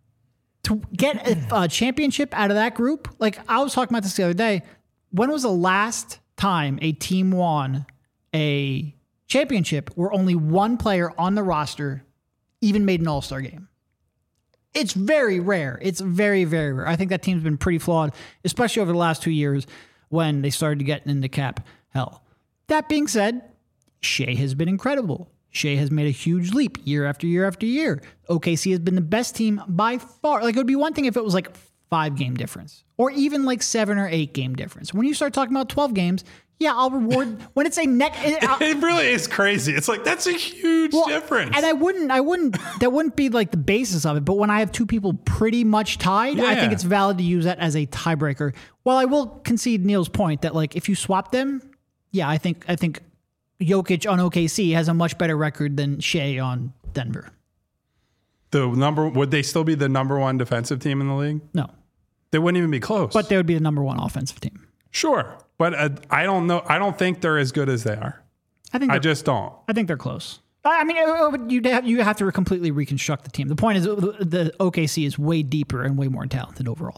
to get a, a championship out of that group, like I was talking about this the other day, when was the last time a team won a championship where only one player on the roster even made an all-star game? It's very rare. It's very, very rare. I think that team's been pretty flawed, especially over the last two years when they started to get into cap hell. That being said, Shea has been incredible. Shea has made a huge leap year after year after year. O K C has been the best team by far. Like, it would be one thing if it was like five game difference, or even like seven or eight game difference. When you start talking about twelve games, yeah, I'll reward when it's a neck. It, it really is crazy. It's like, that's a huge well, difference. And I wouldn't, I wouldn't, that wouldn't be like the basis of it. But when I have two people pretty much tied, I Yeah. think it's valid to use that as a tiebreaker. While I will concede Neil's point that, like, if you swap them, yeah, I think, I think Jokic on O K C has a much better record than Shea on Denver. The number would they still be the number one defensive team in the league? No, They wouldn't even be close. but they would be the number one offensive team. Sure, but uh, I don't know. I don't think they're as good as they are. I think I they're- just don't. I think they're close. I I mean, you have you have to completely reconstruct the team. The point is, the, the O K C is way deeper and way more talented overall.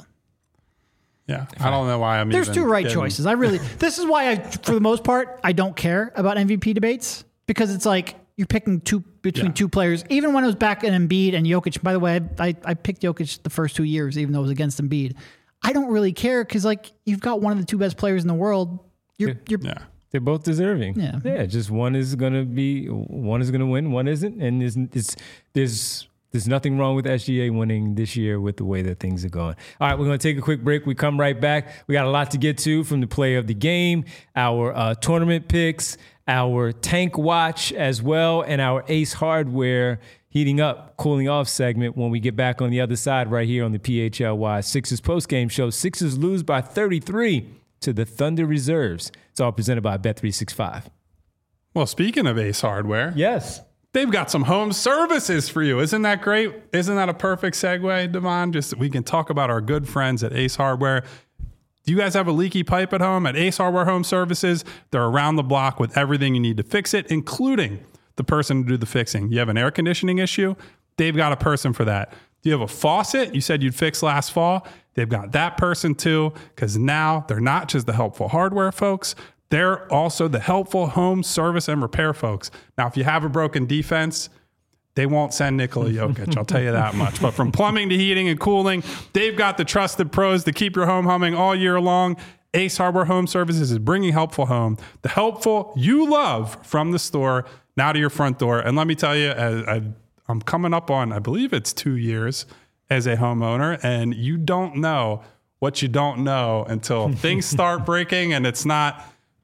Yeah, I don't know why I'm. There's even two right getting- choices. I really, this is why I, for the most part, I don't care about M V P debates, because it's like you're picking two between Yeah. two players. Even when it was back in Embiid and Jokic, by the way, I, I picked Jokic the first two years, even though it was against Embiid. I don't really care, because like you've got one of the two best players in the world. You're, you're, Yeah, They're both deserving. Yeah. yeah. Just one is gonna be, one is gonna win, one isn't, and there's it's, there's there's nothing wrong with S G A winning this year with the way that things are going. All right, we're gonna take a quick break. We come right back. We got a lot to get to, from the play of the game, our uh, tournament picks, our tank watch as well, and our Ace Hardware heating up, cooling off segment when we get back on the other side right here on the P H L Y Sixers postgame show. Sixers lose by thirty-three to the Thunder Reserves. It's all presented by Bet three sixty-five. Well, speaking of Ace Hardware, Yes. they've got some home services for you. Isn't that great? Isn't that a perfect segue, Devon? Just we can talk about our good friends at Ace Hardware. Do you guys have a leaky pipe at home? At Ace Hardware Home Services, they're around the block with everything you need to fix it, including the person to do the fixing. You have an air conditioning issue? They've got a person for that. Do you have a faucet you said you'd fix last fall? They've got that person too, because now they're not just the helpful hardware folks. They're also the helpful home service and repair folks. Now, if you have a broken defense, they won't send Nikola Jokic, I'll tell you that much. But from plumbing to heating and cooling, they've got the trusted pros to keep your home humming all year long. Ace Hardware Home Services is bringing helpful home, the helpful you love, from the store now to your front door. And let me tell you, I, I, I'm coming up on, I believe it's two years as a homeowner, and you don't know what you don't know until things start breaking and it's not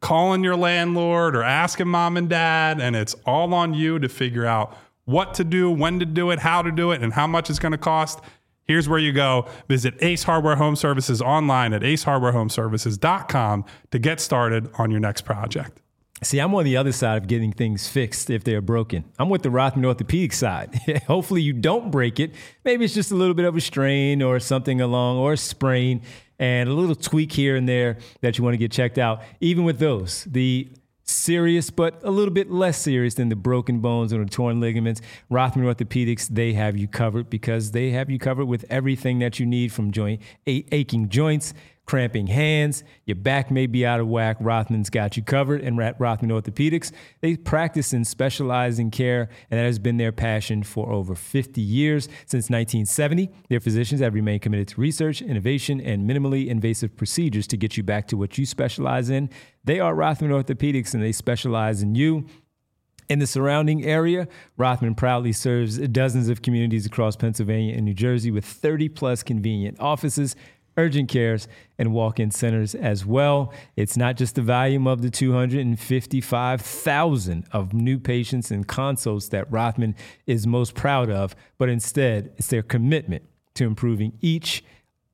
calling your landlord or asking mom and dad, and it's all on you to figure out what to do, when to do it, how to do it, and how much it's going to cost. Here's where you go. Visit Ace Hardware Home Services online at ace hardware home services dot com to get started on your next project. See, I'm on the other side of getting things fixed if they're broken. I'm with the Rothman Orthopedic side. Hopefully you don't break it. Maybe it's just a little bit of a strain or something along, or a sprain, and a little tweak here and there that you want to get checked out. Even with those, the serious but a little bit less serious than the broken bones or the torn ligaments, Rothman Orthopedics, they have you covered, because they have you covered with everything that you need, from joint a- aching joints, cramping hands, your back may be out of whack. Rothman's got you covered. And at Rothman Orthopedics, they practice and specialize in care, and that has been their passion for over fifty years. Since nineteen seventy, their physicians have remained committed to research, innovation, and minimally invasive procedures to get you back to what you specialize in. They are Rothman Orthopedics, and they specialize in you. In the surrounding area, Rothman proudly serves dozens of communities across Pennsylvania and New Jersey with thirty plus convenient offices, urgent cares, and walk-in centers as well. It's not just the volume of the two hundred fifty-five thousand of new patients and consults that Rothman is most proud of, but instead it's their commitment to improving each,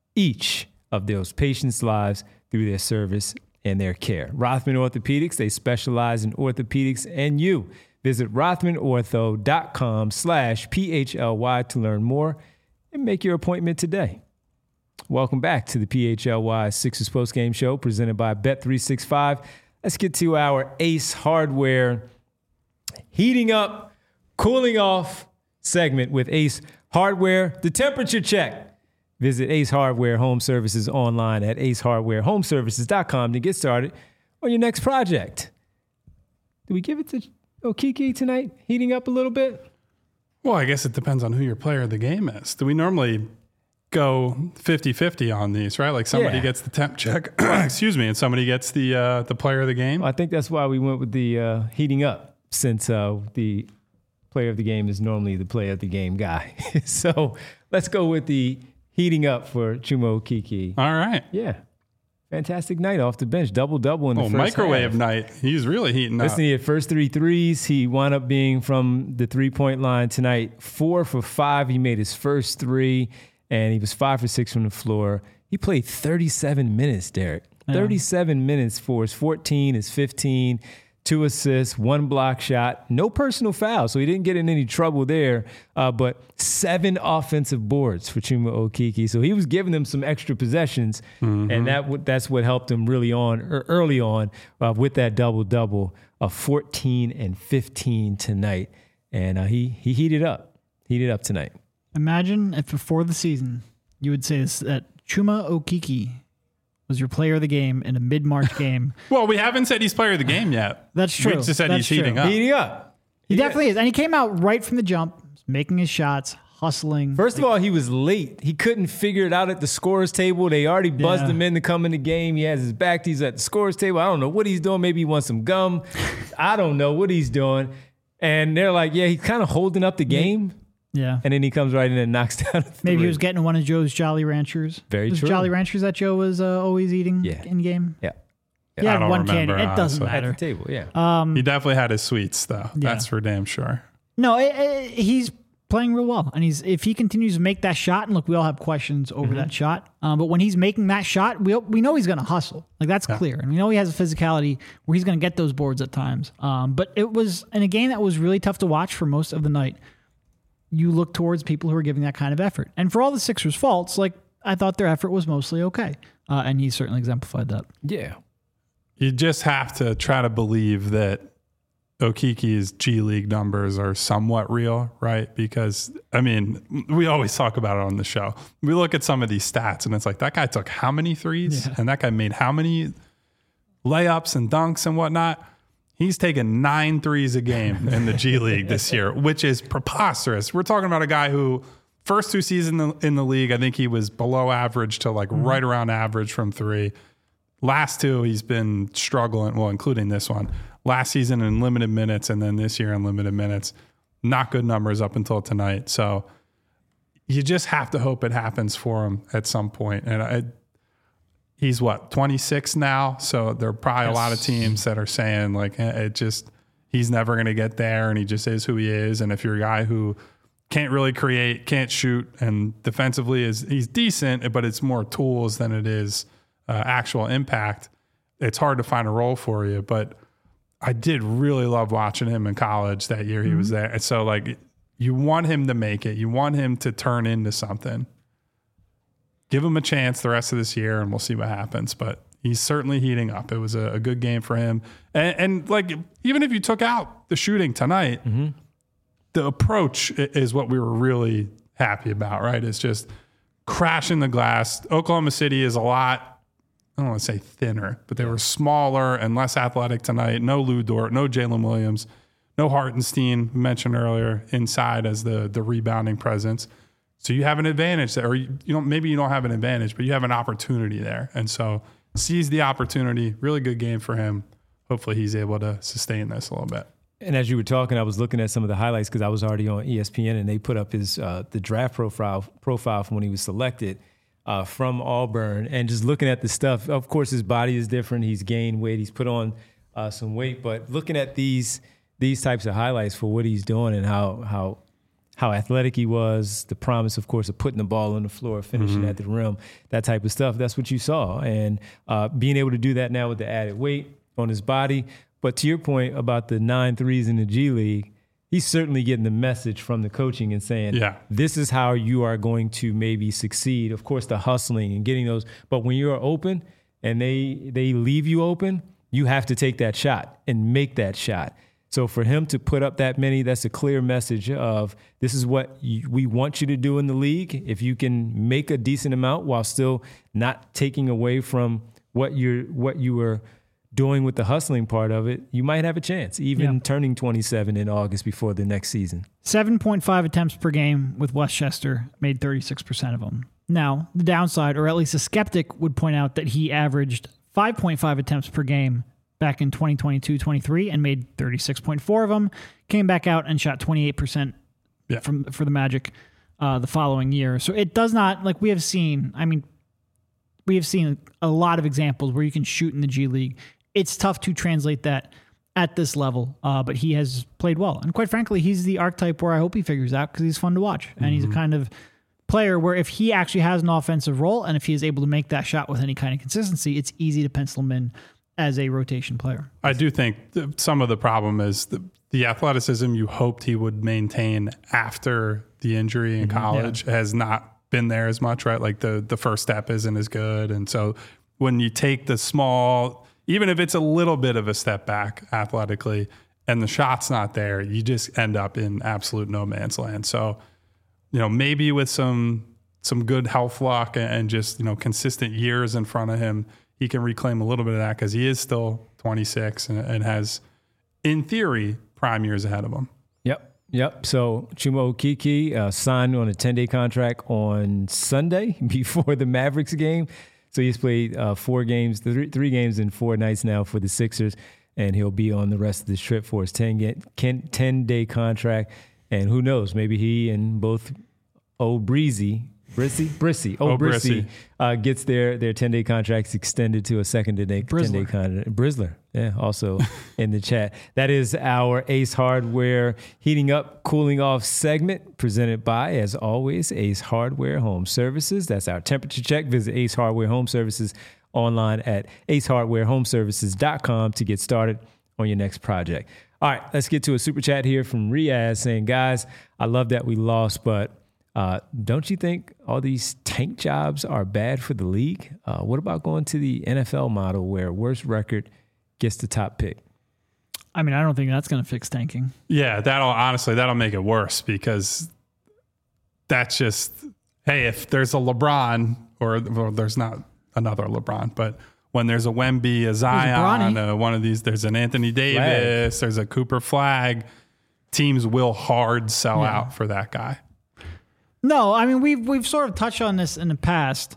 each of those patients' lives through their service and their care. Rothman Orthopedics, they specialize in orthopedics and you. Visit rothmanortho.com slash PHLY to learn more and make your appointment today. Welcome back to the P H L Y Sixers postgame show presented by Bet three sixty-five. Let's get to our Ace Hardware heating up, cooling off segment with Ace Hardware, the temperature check. Visit Ace Hardware Home Services online at ace hardware home services dot com to get started on your next project. Do we give it to Okeke tonight, heating up a little bit? Well, I guess it depends on who your player of the game is. Do we normally go fifty-fifty on these, right? Like somebody Yeah. gets the temp check, excuse me, and somebody gets the uh, the player of the game. Well, I think that's why we went with the uh, heating up, since uh, the player of the game is normally the player of the game guy. So let's go with the heating up for Chuma Okeke. All right. Yeah. Fantastic night off the bench. Double-double in the Oh, first microwave half. night. He's really heating Listen, up. he had first three threes. He wound up being from the three-point line tonight. Four for five. He made his first three, and he was five for six from the floor. He played thirty-seven minutes, Derek. Yeah. thirty-seven minutes for his fourteen, his fifteen, two assists, one block shot, no personal foul, so he didn't get in any trouble there, uh, but seven offensive boards for Chuma Okeke. So he was giving them some extra possessions, mm-hmm. and that w- that's what helped him really on er, early on uh, with that double-double of fourteen and fifteen tonight. And uh, he he heated up, heated up tonight. Imagine if before the season you would say this, that Chuma Okeke was your player of the game in a mid-March game. Well, we haven't said he's player of the game yet. That's true. We just said That's he's heating true. up. Heating up. He Yeah. definitely is. And he came out right from the jump, making his shots, hustling. First of all, he was late. He couldn't figure it out at the scorer's table. They already buzzed Yeah. him in to come in the game. He has his back. He's at the scorer's table. I don't know what he's doing. Maybe he wants some gum. I don't know what he's doing. And they're like, yeah, he's kind of holding up the game. Yeah. And then he comes right in and knocks down a three. Maybe he was getting one of Joe's Jolly Ranchers. Very Those true. Jolly Ranchers that Joe was uh, always eating Yeah. in game. Yeah. He I had don't one remember, candy. It doesn't honestly. At the matter. table, yeah. Um, He definitely had his sweets, though. Yeah. That's for damn sure. No, it, it, he's playing real well, and he's if he continues to make that shot, and look, we all have questions over Mm-hmm. that shot, um, but when he's making that shot, we we know he's going to hustle. Like that's clear, and we know he has a physicality where he's going to get those boards at times. Um, but it was in a game that was really tough to watch for most of the night. You look towards people who are giving that kind of effort, and for all the Sixers' faults, like I thought their effort was mostly okay, uh, and he certainly exemplified that. Yeah. You just have to try to believe that Okeke's G League numbers are somewhat real, right? Because, I mean, we always talk about it on the show. We look at some of these stats, and it's like, that guy took how many threes? Yeah. And that guy made how many layups and dunks and whatnot? He's taken nine threes a game in the G League this year, which is preposterous. We're talking about a guy who, first two seasons in the league, I think he was below average to like mm-hmm. right around average from three. Last two, he's been struggling, well, including this one. Last season in limited minutes, and then this year in limited minutes. Not good numbers up until tonight. So you just have to hope it happens for him at some point. And I, he's what, twenty-six now? So there are probably yes. a lot of teams that are saying like, eh, it just, he's never going to get there and he just is who he is. And if you're a guy who can't really create, can't shoot, and defensively is he's decent, but it's more tools than it is uh, actual impact, it's hard to find a role for you. But I did really love watching him in college that year he mm-hmm. was there. And so like you want him to make it. You want him to turn into something. Give him a chance the rest of this year and we'll see what happens. But he's certainly heating up. It was a, a good game for him. And, and like, even if you took out the shooting tonight, mm-hmm. the approach is what we were really happy about, right? It's just crashing the glass. Oklahoma City is a lot, I don't want to say thinner, but they were smaller and less athletic tonight. No Lou Dort, no Jalen Williams, no Hartenstein, mentioned earlier, inside as the the rebounding presence. So you have an advantage there, or you, you don't, maybe you don't have an advantage, but you have an opportunity there. And so seize the opportunity. Really good game for him. Hopefully he's able to sustain this a little bit. And as you were talking, I was looking at some of the highlights because I was already on E S P N, and they put up his uh, the draft profile profile from when he was selected uh, from Auburn, and just looking at the stuff. Of course, his body is different. He's gained weight. He's put on uh, some weight. But looking at these these types of highlights for what he's doing and how how how athletic he was, the promise, of course, of putting the ball on the floor, finishing mm-hmm. at the rim, that type of stuff. That's what you saw, and uh, being able to do that now with the added weight on his body. But to your point about the nine threes in the G League, he's certainly getting the message from the coaching and saying, yeah. this is how you are going to maybe succeed. Of course, the hustling and getting those. But when you're open and they they leave you open, you have to take that shot and make that shot. So for him to put up that many, that's a clear message of this is what you, we want you to do in the league. If you can make a decent amount while still not taking away from what you're what you were doing with the hustling part of it, you might have a chance, even yeah. turning twenty-seven in August before the next season. seven point five attempts per game with Westchester, made thirty-six percent of them. Now, the downside, or at least a skeptic would point out that he averaged five point five attempts per game back in twenty twenty-two twenty-three and made thirty-six point four of them, came back out and shot twenty-eight percent yeah. from for the Magic uh, the following year. So it does not, like we have seen, I mean, we have seen a lot of examples where you can shoot in the G League. It's tough to translate that at this level, uh, but he has played well. And quite frankly, he's the archetype where I hope he figures out because he's fun to watch. And mm-hmm. he's a kind of player where if he actually has an offensive role and if he is able to make that shot with any kind of consistency, it's easy to pencil him in as a rotation player. I do think some of the problem is the, the athleticism you hoped he would maintain after the injury in mm-hmm. college yeah. has not been there as much, right? Like the, the first step isn't as good. And so when you take the small... even if it's a little bit of a step back athletically and the shot's not there, you just end up in absolute no man's land. So, you know, maybe with some some good health luck and just, you know, consistent years in front of him, he can reclaim a little bit of that because he is still twenty-six and, and has, in theory, prime years ahead of him. Yep. Yep. So Chuma Okeke uh, signed on a ten-day contract on Sunday before the Mavericks game. So he's played uh, four games, three, three games in four nights now for the Sixers, and he'll be on the rest of this trip for his ten-day contract. And who knows, maybe he and both old Breezy, Brissy, Brissy, oh, Brissy, uh, gets their their ten-day contracts extended to a second ten-day contract. Brizzler, yeah, also in the chat. That is our Ace Hardware heating up, cooling off segment presented by, as always, Ace Hardware Home Services. That's our temperature check. Visit Ace Hardware Home Services online at ace hardware home services dot com to get started on your next project. All right, let's get to a super chat here from Riaz saying, guys, I love that we lost, but Uh, don't you think all these tank jobs are bad for the league? Uh, what about going to the N F L model where worst record gets the top pick? I mean, I don't think that's going to fix tanking. Yeah, that'll honestly, that'll make it worse because that's just, hey, if there's a LeBron or, or there's not another LeBron, but when there's a Wemby, a Zion, a one of these, there's an Anthony Davis, Flag. There's a Cooper Flag, teams will hard sell yeah. out for that guy. No, I mean, we've, we've sort of touched on this in the past.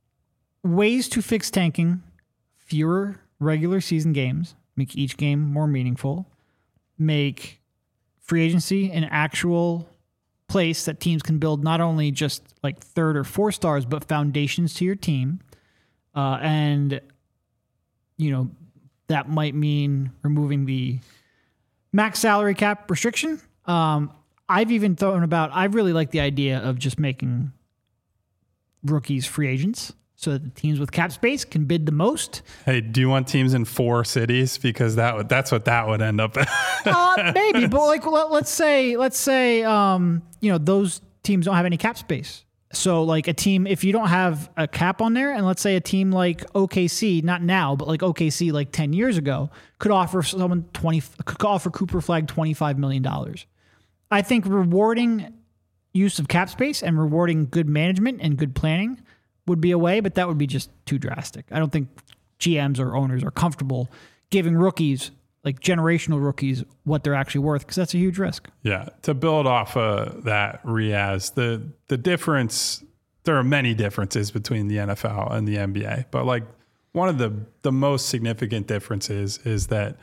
Ways to fix tanking, fewer regular season games, make each game more meaningful, make free agency an actual place that teams can build not only just like third or four stars, but foundations to your team. Uh, and, you know, that might mean removing the max salary cap restriction. Um, I've even thrown about, I really like the idea of just making rookies free agents so that the teams with cap space can bid the most. Hey, do you want teams in four cities? Because that would, that's what that would end up. uh, maybe, but like, let, let's say, let's say, um, you know, those teams don't have any cap space. So like a team, if you don't have a cap on there, and let's say a team like O K C, not now, but like O K C like ten years ago, could offer someone twenty, could offer Cooper Flag twenty-five million dollars. I think rewarding use of cap space and rewarding good management and good planning would be a way, but that would be just too drastic. I don't think G Ms or owners are comfortable giving rookies, like generational rookies, what they're actually worth, because that's a huge risk. Yeah. To build off of that, Riaz, the, the difference, there are many differences between the N F L and the N B A, but like one of the, the most significant differences is that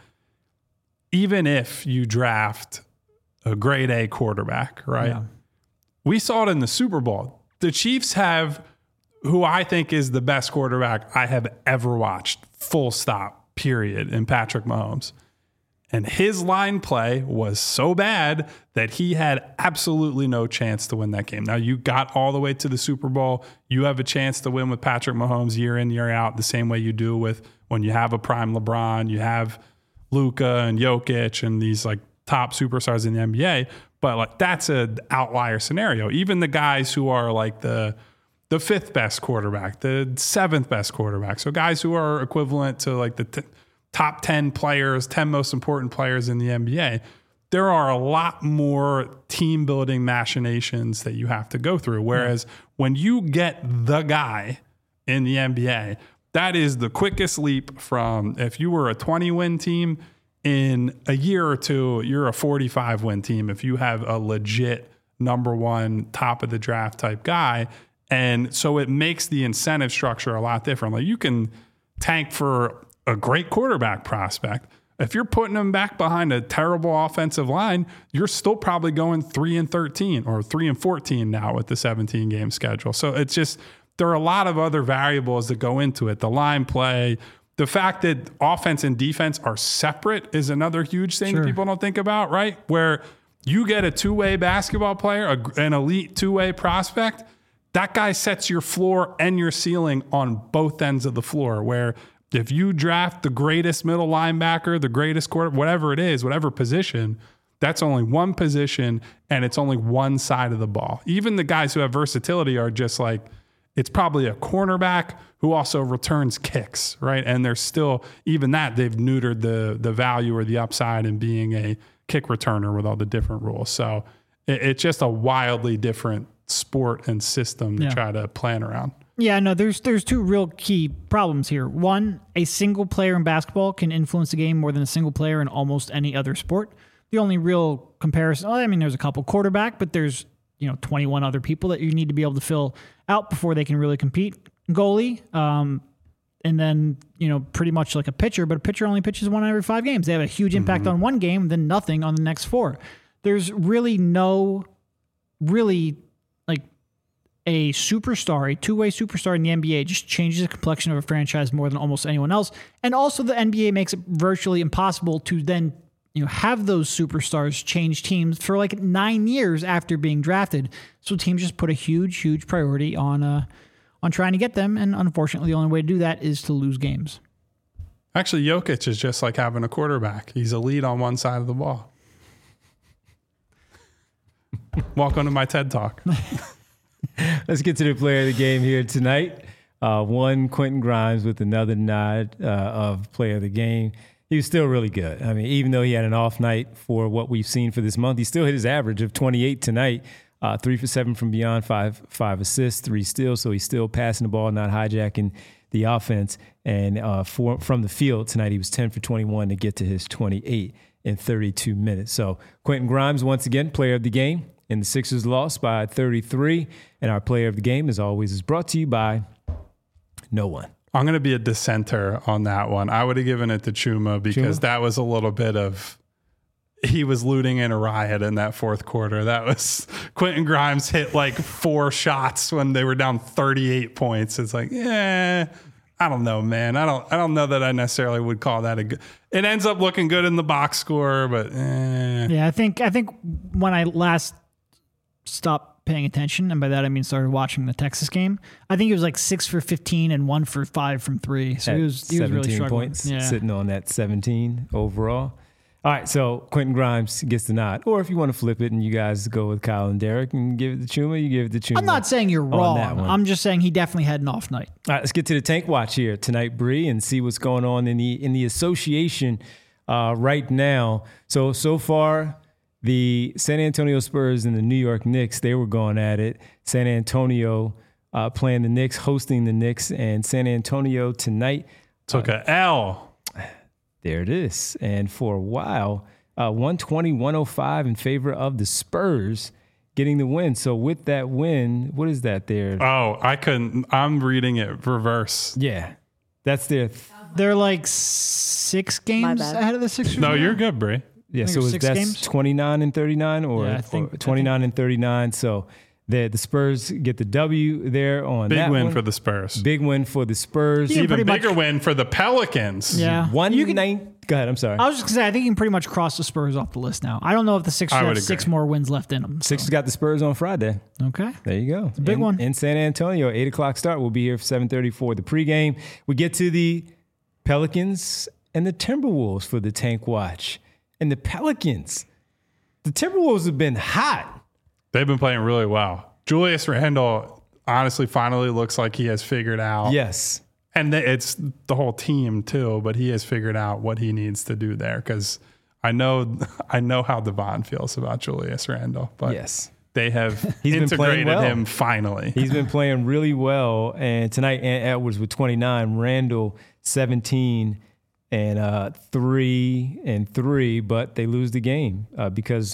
even if you draft a grade A quarterback, right? Yeah. We saw it in the Super Bowl. The Chiefs have who I think is the best quarterback I have ever watched, full stop, period, in Patrick Mahomes. And his line play was so bad that he had absolutely no chance to win that game. Now, you got all the way to the Super Bowl. You have a chance to win with Patrick Mahomes year in, year out, the same way you do with when you have a prime LeBron, you have Luka and Jokic and these like top superstars in the N B A. But like that's an outlier scenario. Even the guys who are like the the fifth best quarterback, the seventh best quarterback. So guys who are equivalent to like the t- top ten players, ten most important players in the N B A, there are a lot more team building machinations that you have to go through. Whereas yeah. when you get the guy in the N B A, that is the quickest leap from if you were a twenty win team in a year or two, you're a forty-five win team if you have a legit number one top of the draft type guy. And so it makes the incentive structure a lot different. Like you can tank for a great quarterback prospect. If you're putting them back behind a terrible offensive line, you're still probably going three and thirteen or three and fourteen now with the seventeen game schedule. So it's just, there are a lot of other variables that go into it. The line play, the fact that offense and defense are separate is another huge thing sure. people don't think about, right? Where you get a two-way basketball player, a, an elite two-way prospect, that guy sets your floor and your ceiling on both ends of the floor. Where if you draft the greatest middle linebacker, the greatest quarter, whatever it is, whatever position, that's only one position and it's only one side of the ball. Even the guys who have versatility are just like, it's probably a cornerback who also returns kicks, right? And there's still, even that, they've neutered the the value or the upside in being a kick returner with all the different rules. So it, it's just a wildly different sport and system to yeah. try to plan around. Yeah, no, there's there's two real key problems here. One, a single player in basketball can influence the game more than a single player in almost any other sport. The only real comparison, I mean, there's a couple quarterback, but there's, you know, twenty-one other people that you need to be able to fill out before they can really compete. Goalie, um, and then, you know, pretty much like a pitcher, but a pitcher only pitches one every five games. They have a huge impact mm-hmm. on one game, then nothing on the next four. There's really no, really like a superstar, a two-way superstar in the N B A just changes the complexion of a franchise more than almost anyone else. And also the N B A makes it virtually impossible to then, you know, have those superstars change teams for like nine years after being drafted. So teams just put a huge, huge priority on uh, on trying to get them. And unfortunately, the only way to do that is to lose games. Actually, Jokic is just like having a quarterback. He's elite on one side of the ball. Welcome to my TED Talk. Let's get to the player of the game here tonight. Uh, one, Quentin Grimes with another nod uh, of player of the game. He was still really good. I mean, even though he had an off night for what we've seen for this month, he still hit his average of twenty-eight tonight. Uh, three for seven from beyond, five five assists, three steals. So he's still passing the ball, not hijacking the offense. And uh, for, from the field tonight, he was ten for twenty-one to get to his twenty-eight in thirty-two minutes. So Quentin Grimes, once again, player of the game. And the Sixers lost by thirty-three. And our player of the game, as always, is brought to you by no one. I'm going to be a dissenter on that one. I would have given it to Chuma because Chuma? that was a little bit of, he was looting in a riot in that fourth quarter. That was, Quentin Grimes hit like four shots when they were down thirty-eight points. It's like, yeah, I don't know, man. I don't I don't know that I necessarily would call that a good. It ends up looking good in the box score, but eh. Yeah, I think I think when I last stopped paying attention, and by that I mean started watching the Texas game, I think he was like six for fifteen and one for five from three. So he was he was really struggling. Points, yeah. sitting on that seventeen overall. All right, so Quentin Grimes gets the nod. Or if you want to flip it and you guys go with Kyle and Derek and give it to Chuma, you give it to Chuma. I'm not saying you're on that wrong. one. I'm just saying he definitely had an off night. All right, let's get to the tank watch here tonight, Bree, and see what's going on in the in the association uh, right now. So so far, the San Antonio Spurs and the New York Knicks, they were going at it. San Antonio uh, playing the Knicks, hosting the Knicks, and San Antonio tonight took uh, a L. There it is. And for a while, uh, one twenty, one oh five in favor of the Spurs getting the win. So with that win, what is that there? Oh, I couldn't. I'm reading it reverse. Yeah, that's their. Th- They're like six games bad. ahead of the Sixers. No, now? you're good, Bree. yeah, think so it was is six that's games? twenty-nine and thirty-nine or, Yeah, I think- or twenty-nine and thirty-nine. So the the Spurs get the W there on Big that win one. for the Spurs. Big win for the Spurs. Yeah, Even pretty much- bigger win for the Pelicans. Yeah. One You can- nine. Go ahead. I'm sorry. I was just gonna say I think you can pretty much cross the Spurs off the list now. I don't know if the Sixers I have would six agree. more wins left in them. So. Sixers got the Spurs on Friday. Okay. There you go. It's a big in, one. in San Antonio. Eight o'clock start. We'll be here for seven thirty for the pregame. We get to the Pelicans and the Timberwolves for the tank watch. And the Pelicans, the Timberwolves have been hot. They've been playing really well. Julius Randle honestly finally looks like he has figured out. Yes. And th- it's the whole team too, but he has figured out what he needs to do there because I know I know how Devon feels about Julius Randle, but Yes. they have He's been playing integrated well. him finally. He's been playing really well. And tonight, Ant Edwards with twenty-nine, Randall seventeen, and uh, three and three, but they lose the game uh, because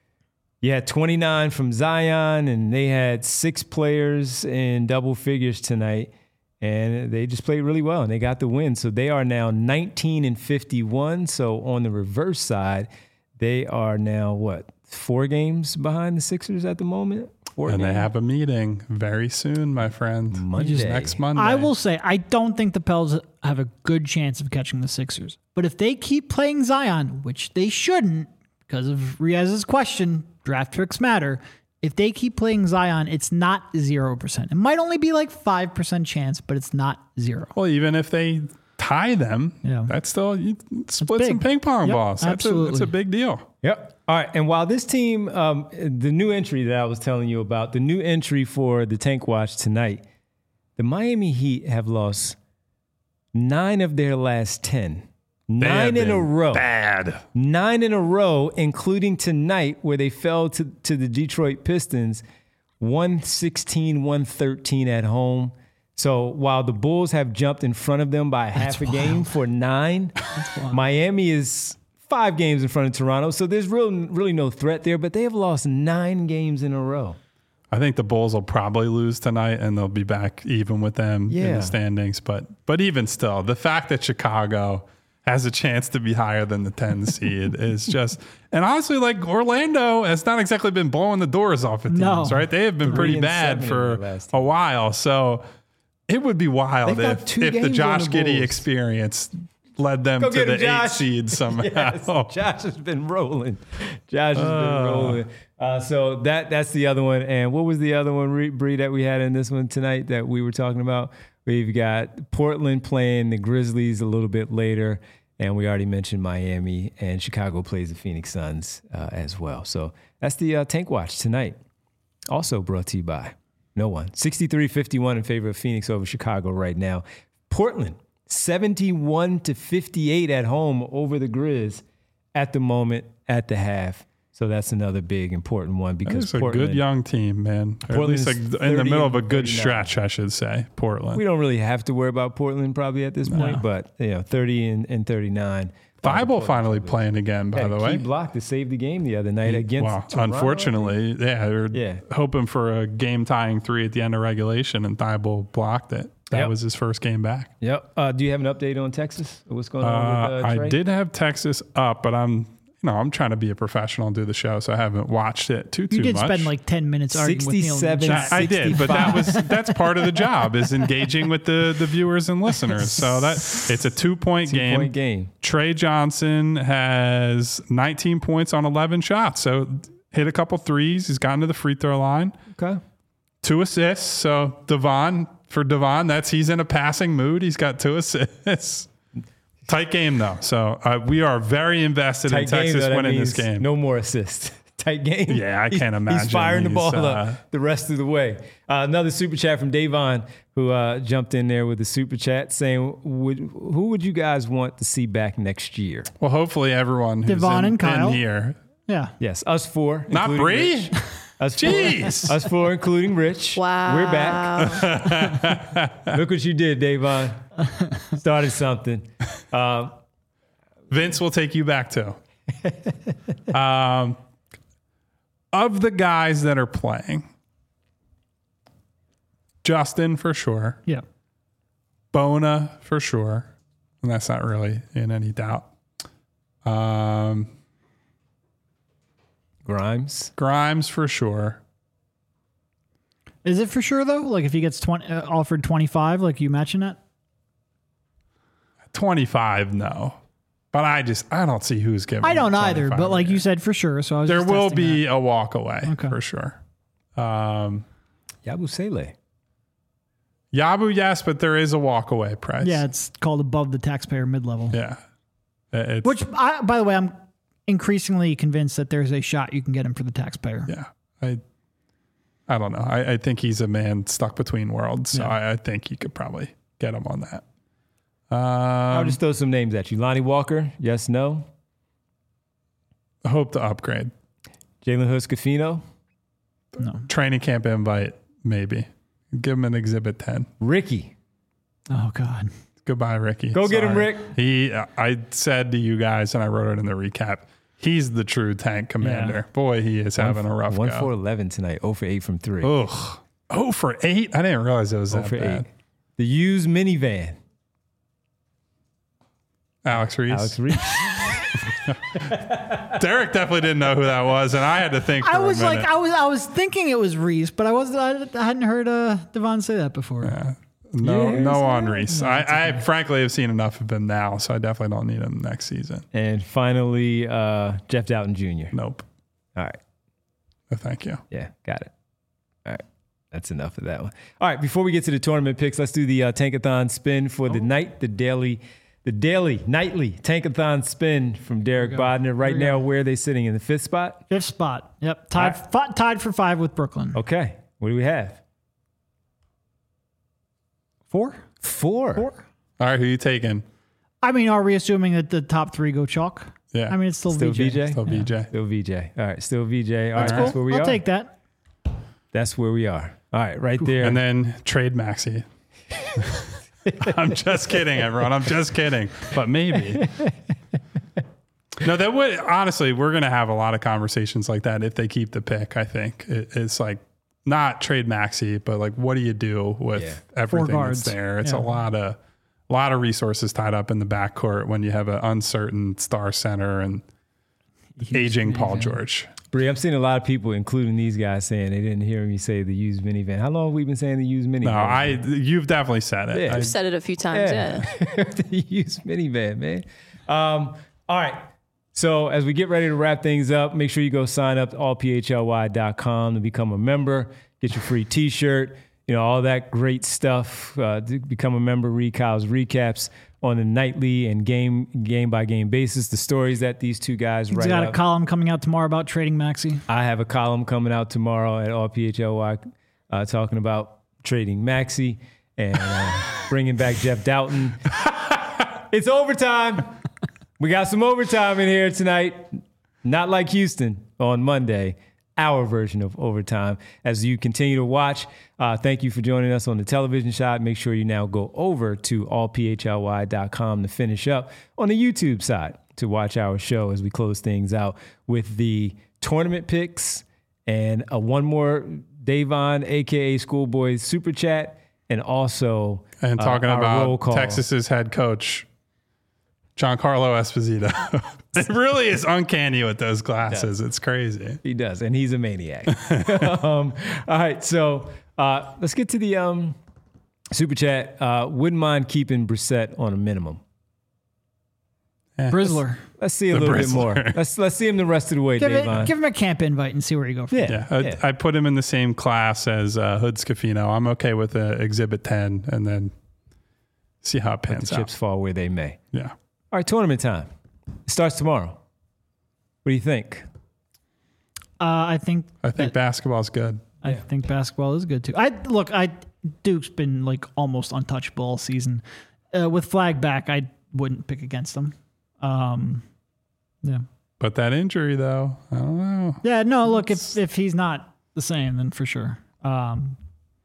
you had twenty-nine from Zion, and they had six players in double figures tonight, and they just played really well, and they got the win. So they are now nineteen and fifty-one. So on the reverse side, they are now, what, four games behind the Sixers at the moment? Four and they games? have a meeting very soon, my friend. Monday. Next Monday. I will say I don't think the Pels have a good chance of catching the Sixers. But if they keep playing Zion, which they shouldn't because of Riaz's question, draft picks matter. If they keep playing Zion, it's not zero percent. It might only be like five percent chance, but it's not zero. Well, even if they tie them, Yeah. that's still you split big. some ping pong Yep, balls. That's a, absolutely. that's a big deal. Yep. All right. And while this team, um, the new entry that I was telling you about, the new entry for the Tank Watch tonight, the Miami Heat have lost nine of their last ten. They have Nine in a been row. Bad. Nine in a row, including tonight where they fell to, to the Detroit Pistons, one sixteen, one thirteen at home. So while the Bulls have jumped in front of them by half a game for nine, Miami is five games in front of Toronto. So there's real, really no threat there, but they have lost nine games in a row. I think the Bulls will probably lose tonight, and they'll be back even with them in Yeah. the standings. But but even still, the fact that Chicago has a chance to be higher than the ten seed is just, and honestly, like Orlando has not exactly been blowing the doors off of teams, No. right? They have been Three pretty and bad seven in for their last a while. So it would be wild They've got if, two if the games Josh on the Giddey Bulls. experience led them Go to get the him, Josh. eight seed somehow. Yes, Josh has been rolling. Josh has been Uh. rolling. Uh, so that that's the other one. And what was the other one, Bree, that we had in this one tonight that we were talking about? We've got Portland playing the Grizzlies a little bit later, and we already mentioned Miami, and Chicago plays the Phoenix Suns uh, as well. So that's the uh, Tank Watch tonight. Also brought to you by no one. sixty-three fifty-one in favor of Phoenix over Chicago right now. Portland, seventy-one to fifty-eight at home over the Grizz at the moment at the half. So that's another big important one because It's a Portland, good young team, man. Or at Portland's least like in the thirty middle of a and good thirty-nine. stretch, I should say. Portland. we don't really have to worry about Portland probably at this point, but you know, thirty and, and thirty-nine. Thibault finally playing again, by Had the a way. key block to save the game the other night against Wow. Toronto. Unfortunately, yeah, they're Yeah. hoping for a game tying three at the end of regulation, and Thibault blocked it. That Yep. was his first game back. Yep. Uh, do you have an update on Texas? What's going on Uh, with uh, Trey? I did have Texas up, but I'm No, I'm trying to be a professional and do the show, so I haven't watched it too too You did much. spend like ten minutes arguing with Neil. in the sixty-seven chat. I, I did, but that was that's part of the job is engaging with the the viewers and listeners. So that it's a two point Two game. point game. Trey Johnson has nineteen points on eleven shots, so hit a couple threes. He's gotten to the free throw line. Okay. Two assists. So Devon for Devon, that's he's in a passing mood. He's got two assists. Tight game though, so uh, we are very invested Tight in Texas game, though, that winning this means game. No more assists. Tight game. Yeah, I can't He's- imagine. He's firing the He's, ball uh, up the rest of the way. Uh, another super chat from Davon, who uh, jumped in there with the super chat saying, would, who would you guys want to see back next year? Well, hopefully everyone who's Devon in, and Kyle. in here. Yeah. Yes, us four. Not including Bree? Rich. Us four, Jeez. us four, including Rich. Wow. We're back. Look what you did, Davon. Started something. Um, Vince will take you back too. um, of the guys that are playing, Justin for sure, Yeah. Bona for sure, and that's not really in any doubt. Um, Grimes. Grimes for sure. Is it for sure though? Like if he gets twenty, uh, offered twenty-five, like you mentioned it. twenty-five, no. But I just, I don't see who's giving. I don't him either, twenty-five but like you yet. said, for sure. So I was there just will testing be that. a walk away Okay. for sure. Um, Yabu Sele. Yabu, yes, but there is a walk away price. Yeah, it's called above the taxpayer mid level. Yeah. It's, Which, I, by the way, I'm increasingly convinced that there's a shot you can get him for the taxpayer. yeah. I I don't know. I, I think he's a man stuck between worlds. So Yeah. I, I think you could probably get him on that. I'll Um, just throw some names at you. Lonnie Walker. Yes, no. hope to upgrade. Jalen Hurts-Scafino. No. Training camp invite, maybe. Give him an exhibit ten. Ricky. Oh God. Goodbye, Ricky. Go get him, Sorry. Rick. He, I said to you guys, and I wrote it in the recap. He's the true tank commander. Yeah. Boy, he is having a rough One go. for eleven tonight. zero for eight from three. Ugh. Oh, for eight? I didn't realize it was zero that for bad. eight. The used minivan. Alex Reese. Alex Reese. Derek definitely didn't know who that was, and I had to think for I was a minute. like, I was, I was thinking it was Reese, but I wasn't. I, I hadn't heard uh, Devon say that before. no, Yeah, no it's on not- Reese. no, I, it's I frankly have seen enough of him now, so I definitely don't need him next season. And finally, uh, Jeff Doughton Junior Nope. All right. No, thank you. Yeah, got it. All right. That's enough of that one. All right. Before we get to the tournament picks, let's do the uh, Tankathon spin for the night, the daily, the daily, nightly Tankathon spin from Derek Bodner. Right now, where are they sitting? In the fifth spot? Fifth spot. Yep. Tied, All fi- tied for five with Brooklyn. Okay. What do we have? Four? Four. Four? All right, who you taking? I mean, are we assuming that the top three go chalk? Yeah. I mean, it's still, Still V J. V J? Still V J. Still V J. All right. Still V J. All That's right. cool. That's where we I'll are. take that. That's where we are. All right. Right there. And then trade Maxi. I'm just kidding, everyone. I'm just kidding. But maybe. No, that would honestly, we're going to have a lot of conversations like that if they keep the pick. I think it, it's like not trade Maxi, but like what do you do with Yeah. everything that's guards. there? It's Yeah. a lot of a lot of resources tied up in the backcourt when you have an uncertain star center and aging Paul George. Bree, I'm seeing a lot of people, including these guys, saying they didn't hear me say the used minivan. How long have we been saying the used minivan? No, I you've definitely said it. Yeah. I- I've said it a few times. Yeah. Yeah. The used minivan, man. Um, all right. So as we get ready to wrap things up, make sure you go sign up to all p h l y dot com to become a member, get your free t-shirt, you know, all that great stuff. Uh, to become a member, read Kyle's recaps on a nightly and game game by game basis. The stories that these two guys He's write got a up. column coming out tomorrow about trading Maxi. I have a column coming out tomorrow at all P H L Y uh, talking about trading Maxi and uh, bringing back Jeff Doughton. It's overtime. We got some overtime in here tonight. Not like Houston on Monday. Our version of overtime. As you continue to watch, uh, thank you for joining us on the television shot. Make sure you now go over to all p h l y dot com to finish up on the YouTube side to watch our show as we close things out with the tournament picks and a one more Davon, a k a. Schoolboy Super Chat, and also and talking uh, our roll about call. Texas's head coach, Giancarlo Esposito. It really is uncanny with those glasses. It's crazy. He does, and he's a maniac. um, all right, so uh, let's get to the um, super chat. Uh, wouldn't mind keeping Brissett on a minimum. Yeah. Brizzler. Let's see a The little bit Brizzler. more. Let's let's see him the rest of the way, Give, it, Davon. give him a camp invite and see where you go from Yeah. there. Yeah, I'd, Yeah. I'd put him in the same class as uh, Hood Scafino. I'm okay with uh, Exhibit ten, and then see how it Let pans the out. chips fall where they may. Yeah. All right, tournament time. It starts tomorrow. What do you think? Uh, I think I think basketball's good. I Yeah. think basketball is good too. I look, I Duke's been like almost untouchable all season. Uh, with Flag back, I wouldn't pick against them. Um, yeah, But that injury, though, I don't know. yeah. No, look, if if he's not the same, then for sure. Um,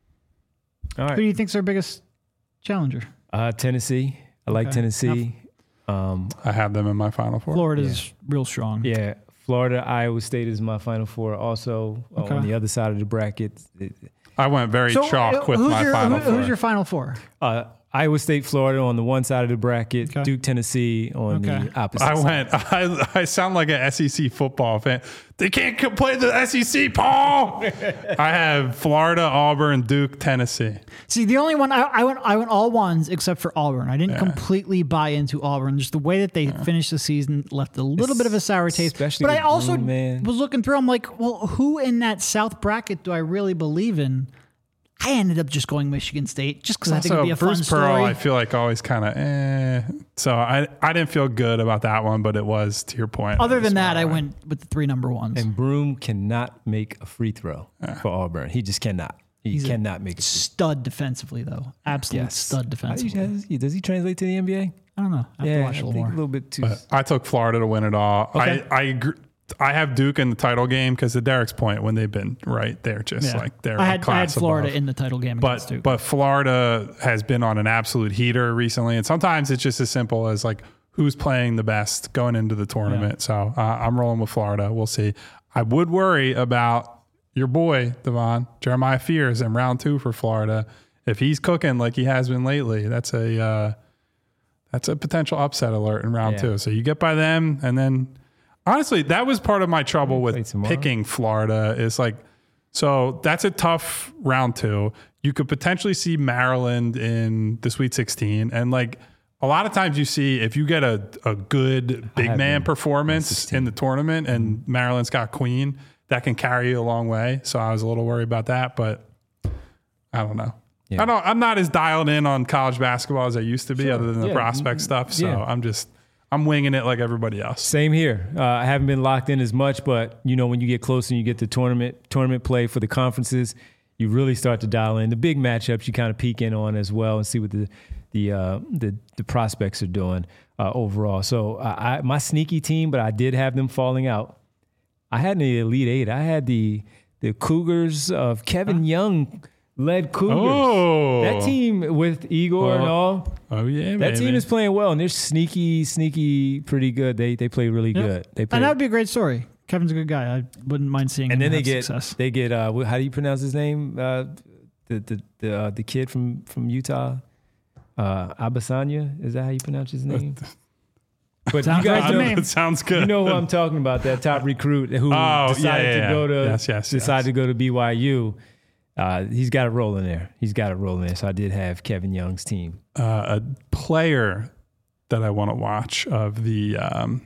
All who do right. you think's our biggest challenger? Uh, Tennessee. I like Okay. Tennessee. Um, I have them in my Final Four. Florida's real strong. yeah, Florida, Iowa State is my Final Four. Also uh, Okay. on the other side of the bracket, it- I went very So chalk uh, with who's my your Final who- Four. who's your final four? uh, Iowa State, Florida on the one side of the bracket, Okay. Duke, Tennessee on Okay. the opposite I side. went. I, I sound like an S E C football fan. They can't co- play the S E C, Paul. I have Florida, Auburn, Duke, Tennessee. See, the only one I, I went I went all ones except for Auburn. I didn't Yeah. completely buy into Auburn. Just the way that they finished the season left a little bit of a sour taste. Especially But I with also Broom, man. was looking through. I'm like, well, who in that South bracket do I really believe in? I ended up just going Michigan State just because I think it'd Also, be a Bruce fun Pearl, story. I feel like always kind of eh. So I, I didn't feel good about that one, but it was to your point. Other it was than that, I fine. went with the three number ones. And Broom cannot make a free throw for Auburn. He just cannot. He He's a cannot make a free Stud defensively, though. Absolute Yes. stud throw. defensively. Does he translate to the N B A? I don't know. I have to watch a I little think more. a little bit too. But I took Florida to win it all. Okay. I I agree. I have Duke in the title game because to Derek's point, when they've been right, they're just Yeah. like they're I a had, I had class Florida above. in the title game against But Duke. but Florida has been on an absolute heater recently, and sometimes it's just as simple as like who's playing the best going into the tournament. So uh, I'm rolling with Florida. We'll see. I would worry about your boy Devon Jeremiah Fears in round two for Florida. If he's cooking like he has been lately, that's a uh, that's a potential upset alert in round Yeah. two. So you get by them, and then honestly, that was part of my trouble play with tomorrow. picking Florida. Is like, so that's a tough round two. You could potentially see Maryland in the Sweet sixteen, and like a lot of times you see if you get a a good big have man them performance in the tournament, and Maryland's got Queen, that can carry you a long way. So I was a little worried about that, but I don't know. Yeah. I don't. I'm not as dialed in on college basketball as I used to be, other than the Yeah. prospect stuff. So Yeah. I'm just I'm winging it like everybody else. Same here. Uh, I haven't been locked in as much, but you know, when you get closer and you get to tournament tournament play for the conferences, you really start to dial in the big matchups. You kind of peek in on as well and see what the the uh, the, the prospects are doing uh, overall. So I, I, my sneaky team, but I did have them falling out. I had the Elite Eight. I had the the Cougars of Kevin Young led Cougars. Oh. That team with Igor and Oh. all. Oh yeah, That baby. team is playing well, and they're sneaky, sneaky, pretty good. They they play really Yep. good. They play, And that would be a great story. Kevin's a good guy. I wouldn't mind seeing and him then they have get success. they get uh, wh- how do you pronounce his name? Uh, the the the uh, the kid from from Utah, uh, Abasanya. Is that how you pronounce his name? But Sounds you right guys to know, me. It sounds good. you know who I'm talking about? That top recruit who Oh, decided yeah, yeah, to yeah. go to Yes, yes, decided yes. to go to B Y U. Uh, he's got it rolling there. He's got it rolling there. So I did have Kevin Young's team. uh, a player that I want to watch of the um,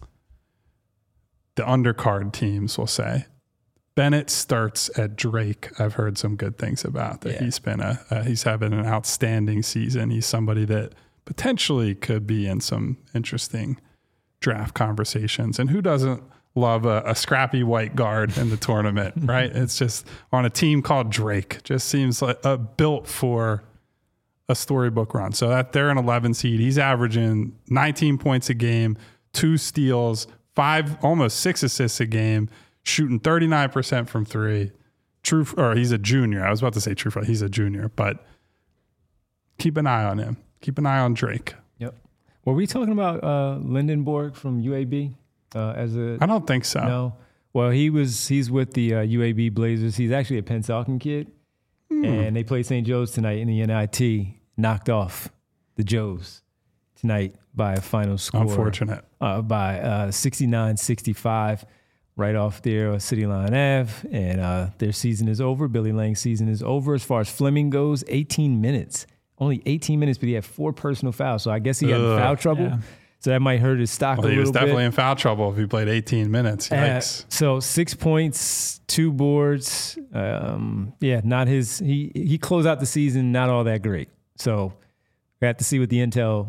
the undercard teams. We'll say Bennett starts at Drake. I've heard some good things about that. Yeah. He's been a uh, he's having an outstanding season. He's somebody that potentially could be in some interesting draft conversations. And who doesn't love a, a scrappy white guard in the tournament, right? It's just on a team called Drake. Just seems like uh, built for a storybook run. So that they're an eleven seed. He's averaging nineteen points a game, two steals, five, almost six assists a game, shooting thirty-nine percent from three. True, or he's a junior. I was about to say true, he's a junior, but keep an eye on him. Keep an eye on Drake. Yep. Were we talking about uh, Lindenborg from U A B uh, as a? I don't think so. No. Well, he was. He's with the uh, U A B Blazers. He's actually a Pennsauken kid, and they played Saint Joe's tonight in the N I T. Knocked off the Joes. tonight by a final score. Unfortunate. Uh, by uh, sixty-nine sixty-five, right off there on City Line Avenue. And uh, their season is over. Billy Lang's season is over. As far as Fleming goes, eighteen minutes. Only eighteen minutes, but he had four personal fouls. So I guess he got in foul trouble. Yeah. So that might hurt his stock Well, a he little was definitely bit. in foul trouble if he played eighteen minutes. Yikes. Uh, so six points, two boards. Um, yeah, not his. He he closed out the season not all that great. So we have to see what the intel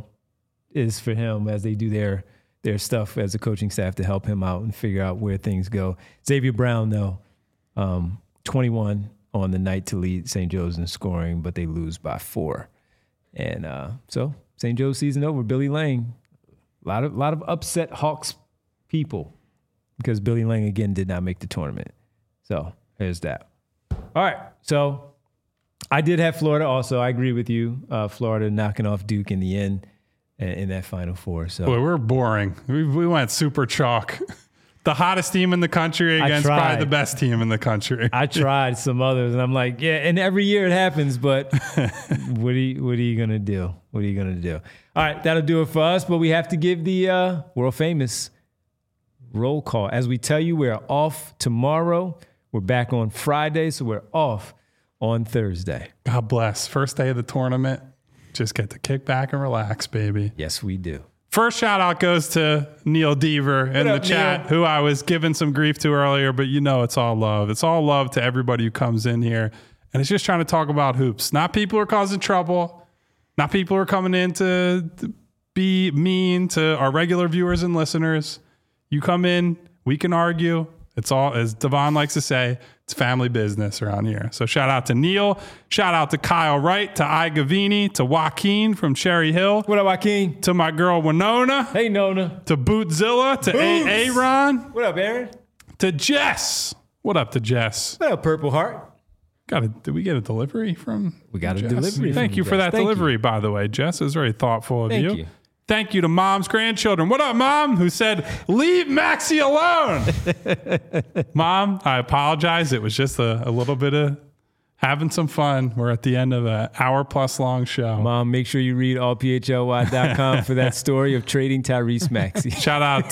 is for him as they do their their stuff as a coaching staff to help him out and figure out where things go. Xavier Brown, though, um, twenty-one on the night to lead Saint Joe's in scoring, but they lose by four. And uh, so Saint Joe's season over. Billy Lang. A lot of lot of upset Hawks people because Billy Lang again did not make the tournament. So there's that. All right. So I did have Florida also. I agree with you. Uh, Florida knocking off Duke in the end in, in that Final Four. So Boy, we're boring. We, we went super chalk. The hottest team in the country against tried. probably the best team in the country. I tried some others, and I'm like, yeah. And every year it happens, but what are you, what are you gonna do? What are you gonna do? All right, that'll do it for us. But we have to give the uh, world famous roll call. As we tell you, we're off tomorrow. We're back on Friday, so we're off on Thursday. God bless. First day of the tournament. Just get to kick back and relax, baby. Yes, we do. First shout out goes to Neil Deaver in What the up, chat, Neil? who I was giving some grief to earlier, but you know it's all love. It's all love to everybody who comes in here. And it's just trying to talk about hoops. Not people who are causing trouble. Not people who are coming in to, to be mean to our regular viewers and listeners. You come in, we can argue. It's all, as Devon likes to say, it's family business around here. So shout out to Neil. Shout out to Kyle Wright, to I Gavini, to Joaquin from Cherry Hill, What up, Joaquin? to my girl Winona, Hey, Nona. to Bootzilla, to A- Aaron, What up, Aaron? to Jess. What up to Jess? What up, Purple Heart? Got a, did we get a delivery from We got a Jess? delivery Thank from you for Jess. that Thank delivery, you. by the way. Jess is very thoughtful of Thank you. you. Thank you to Mom's grandchildren. What up, Mom? Who said, leave Maxie alone. Mom, I apologize. It was just a, a little bit of having some fun. We're at the end of an hour plus long show. Mom, make sure you read all p h l y dot com for that story of trading Tyrese Maxey. Shout out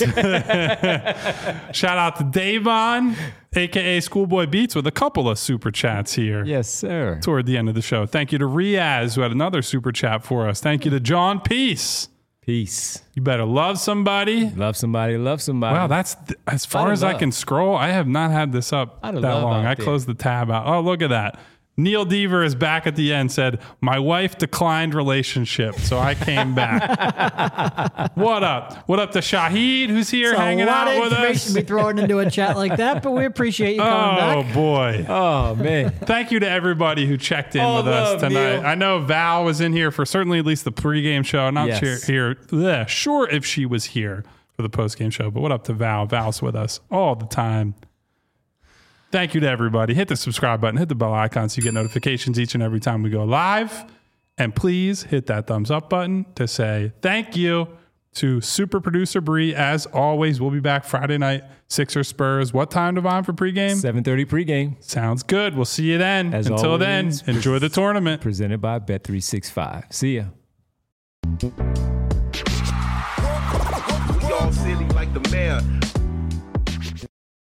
to, shout out to Davon, a k a. Schoolboy Beats, with a couple of super chats here. Yes, sir. Toward the end of the show. Thank you to Riaz, who had another super chat for us. Thank you to John Peace. Peace. You better love somebody. Love somebody, love somebody. Wow, that's th- as far Lot of as I love. can scroll. I have not had this up Lot that of love long. out I there. closed the tab out. Oh, look at that. Neil Deaver is back at the end, said, my wife declined relationship, so I came back. What up? What up to Shahid, who's here It's hanging a lot out of with information us? to be thrown into a chat like that, but we appreciate you coming Oh, back. boy. Oh, man. Thank you to everybody who checked in All with us love, tonight. Neil. I know Val was in here for certainly at least the pregame show. Not Yes. sure here, bleh, sure if she was here for the postgame show, but what up to Val? Val's with us all the time. Thank you to everybody. Hit the subscribe button, hit the bell icon so you get notifications each and every time we go live. And please hit that thumbs up button to say thank you to super producer Bree. As always, we'll be back Friday night, Sixers Spurs. What time, Devon, for pregame? seven thirty pregame. Sounds good. We'll see you then. As Until always, then, enjoy the tournament. Presented by Bet three sixty-five. See ya. We all silly like the mayor.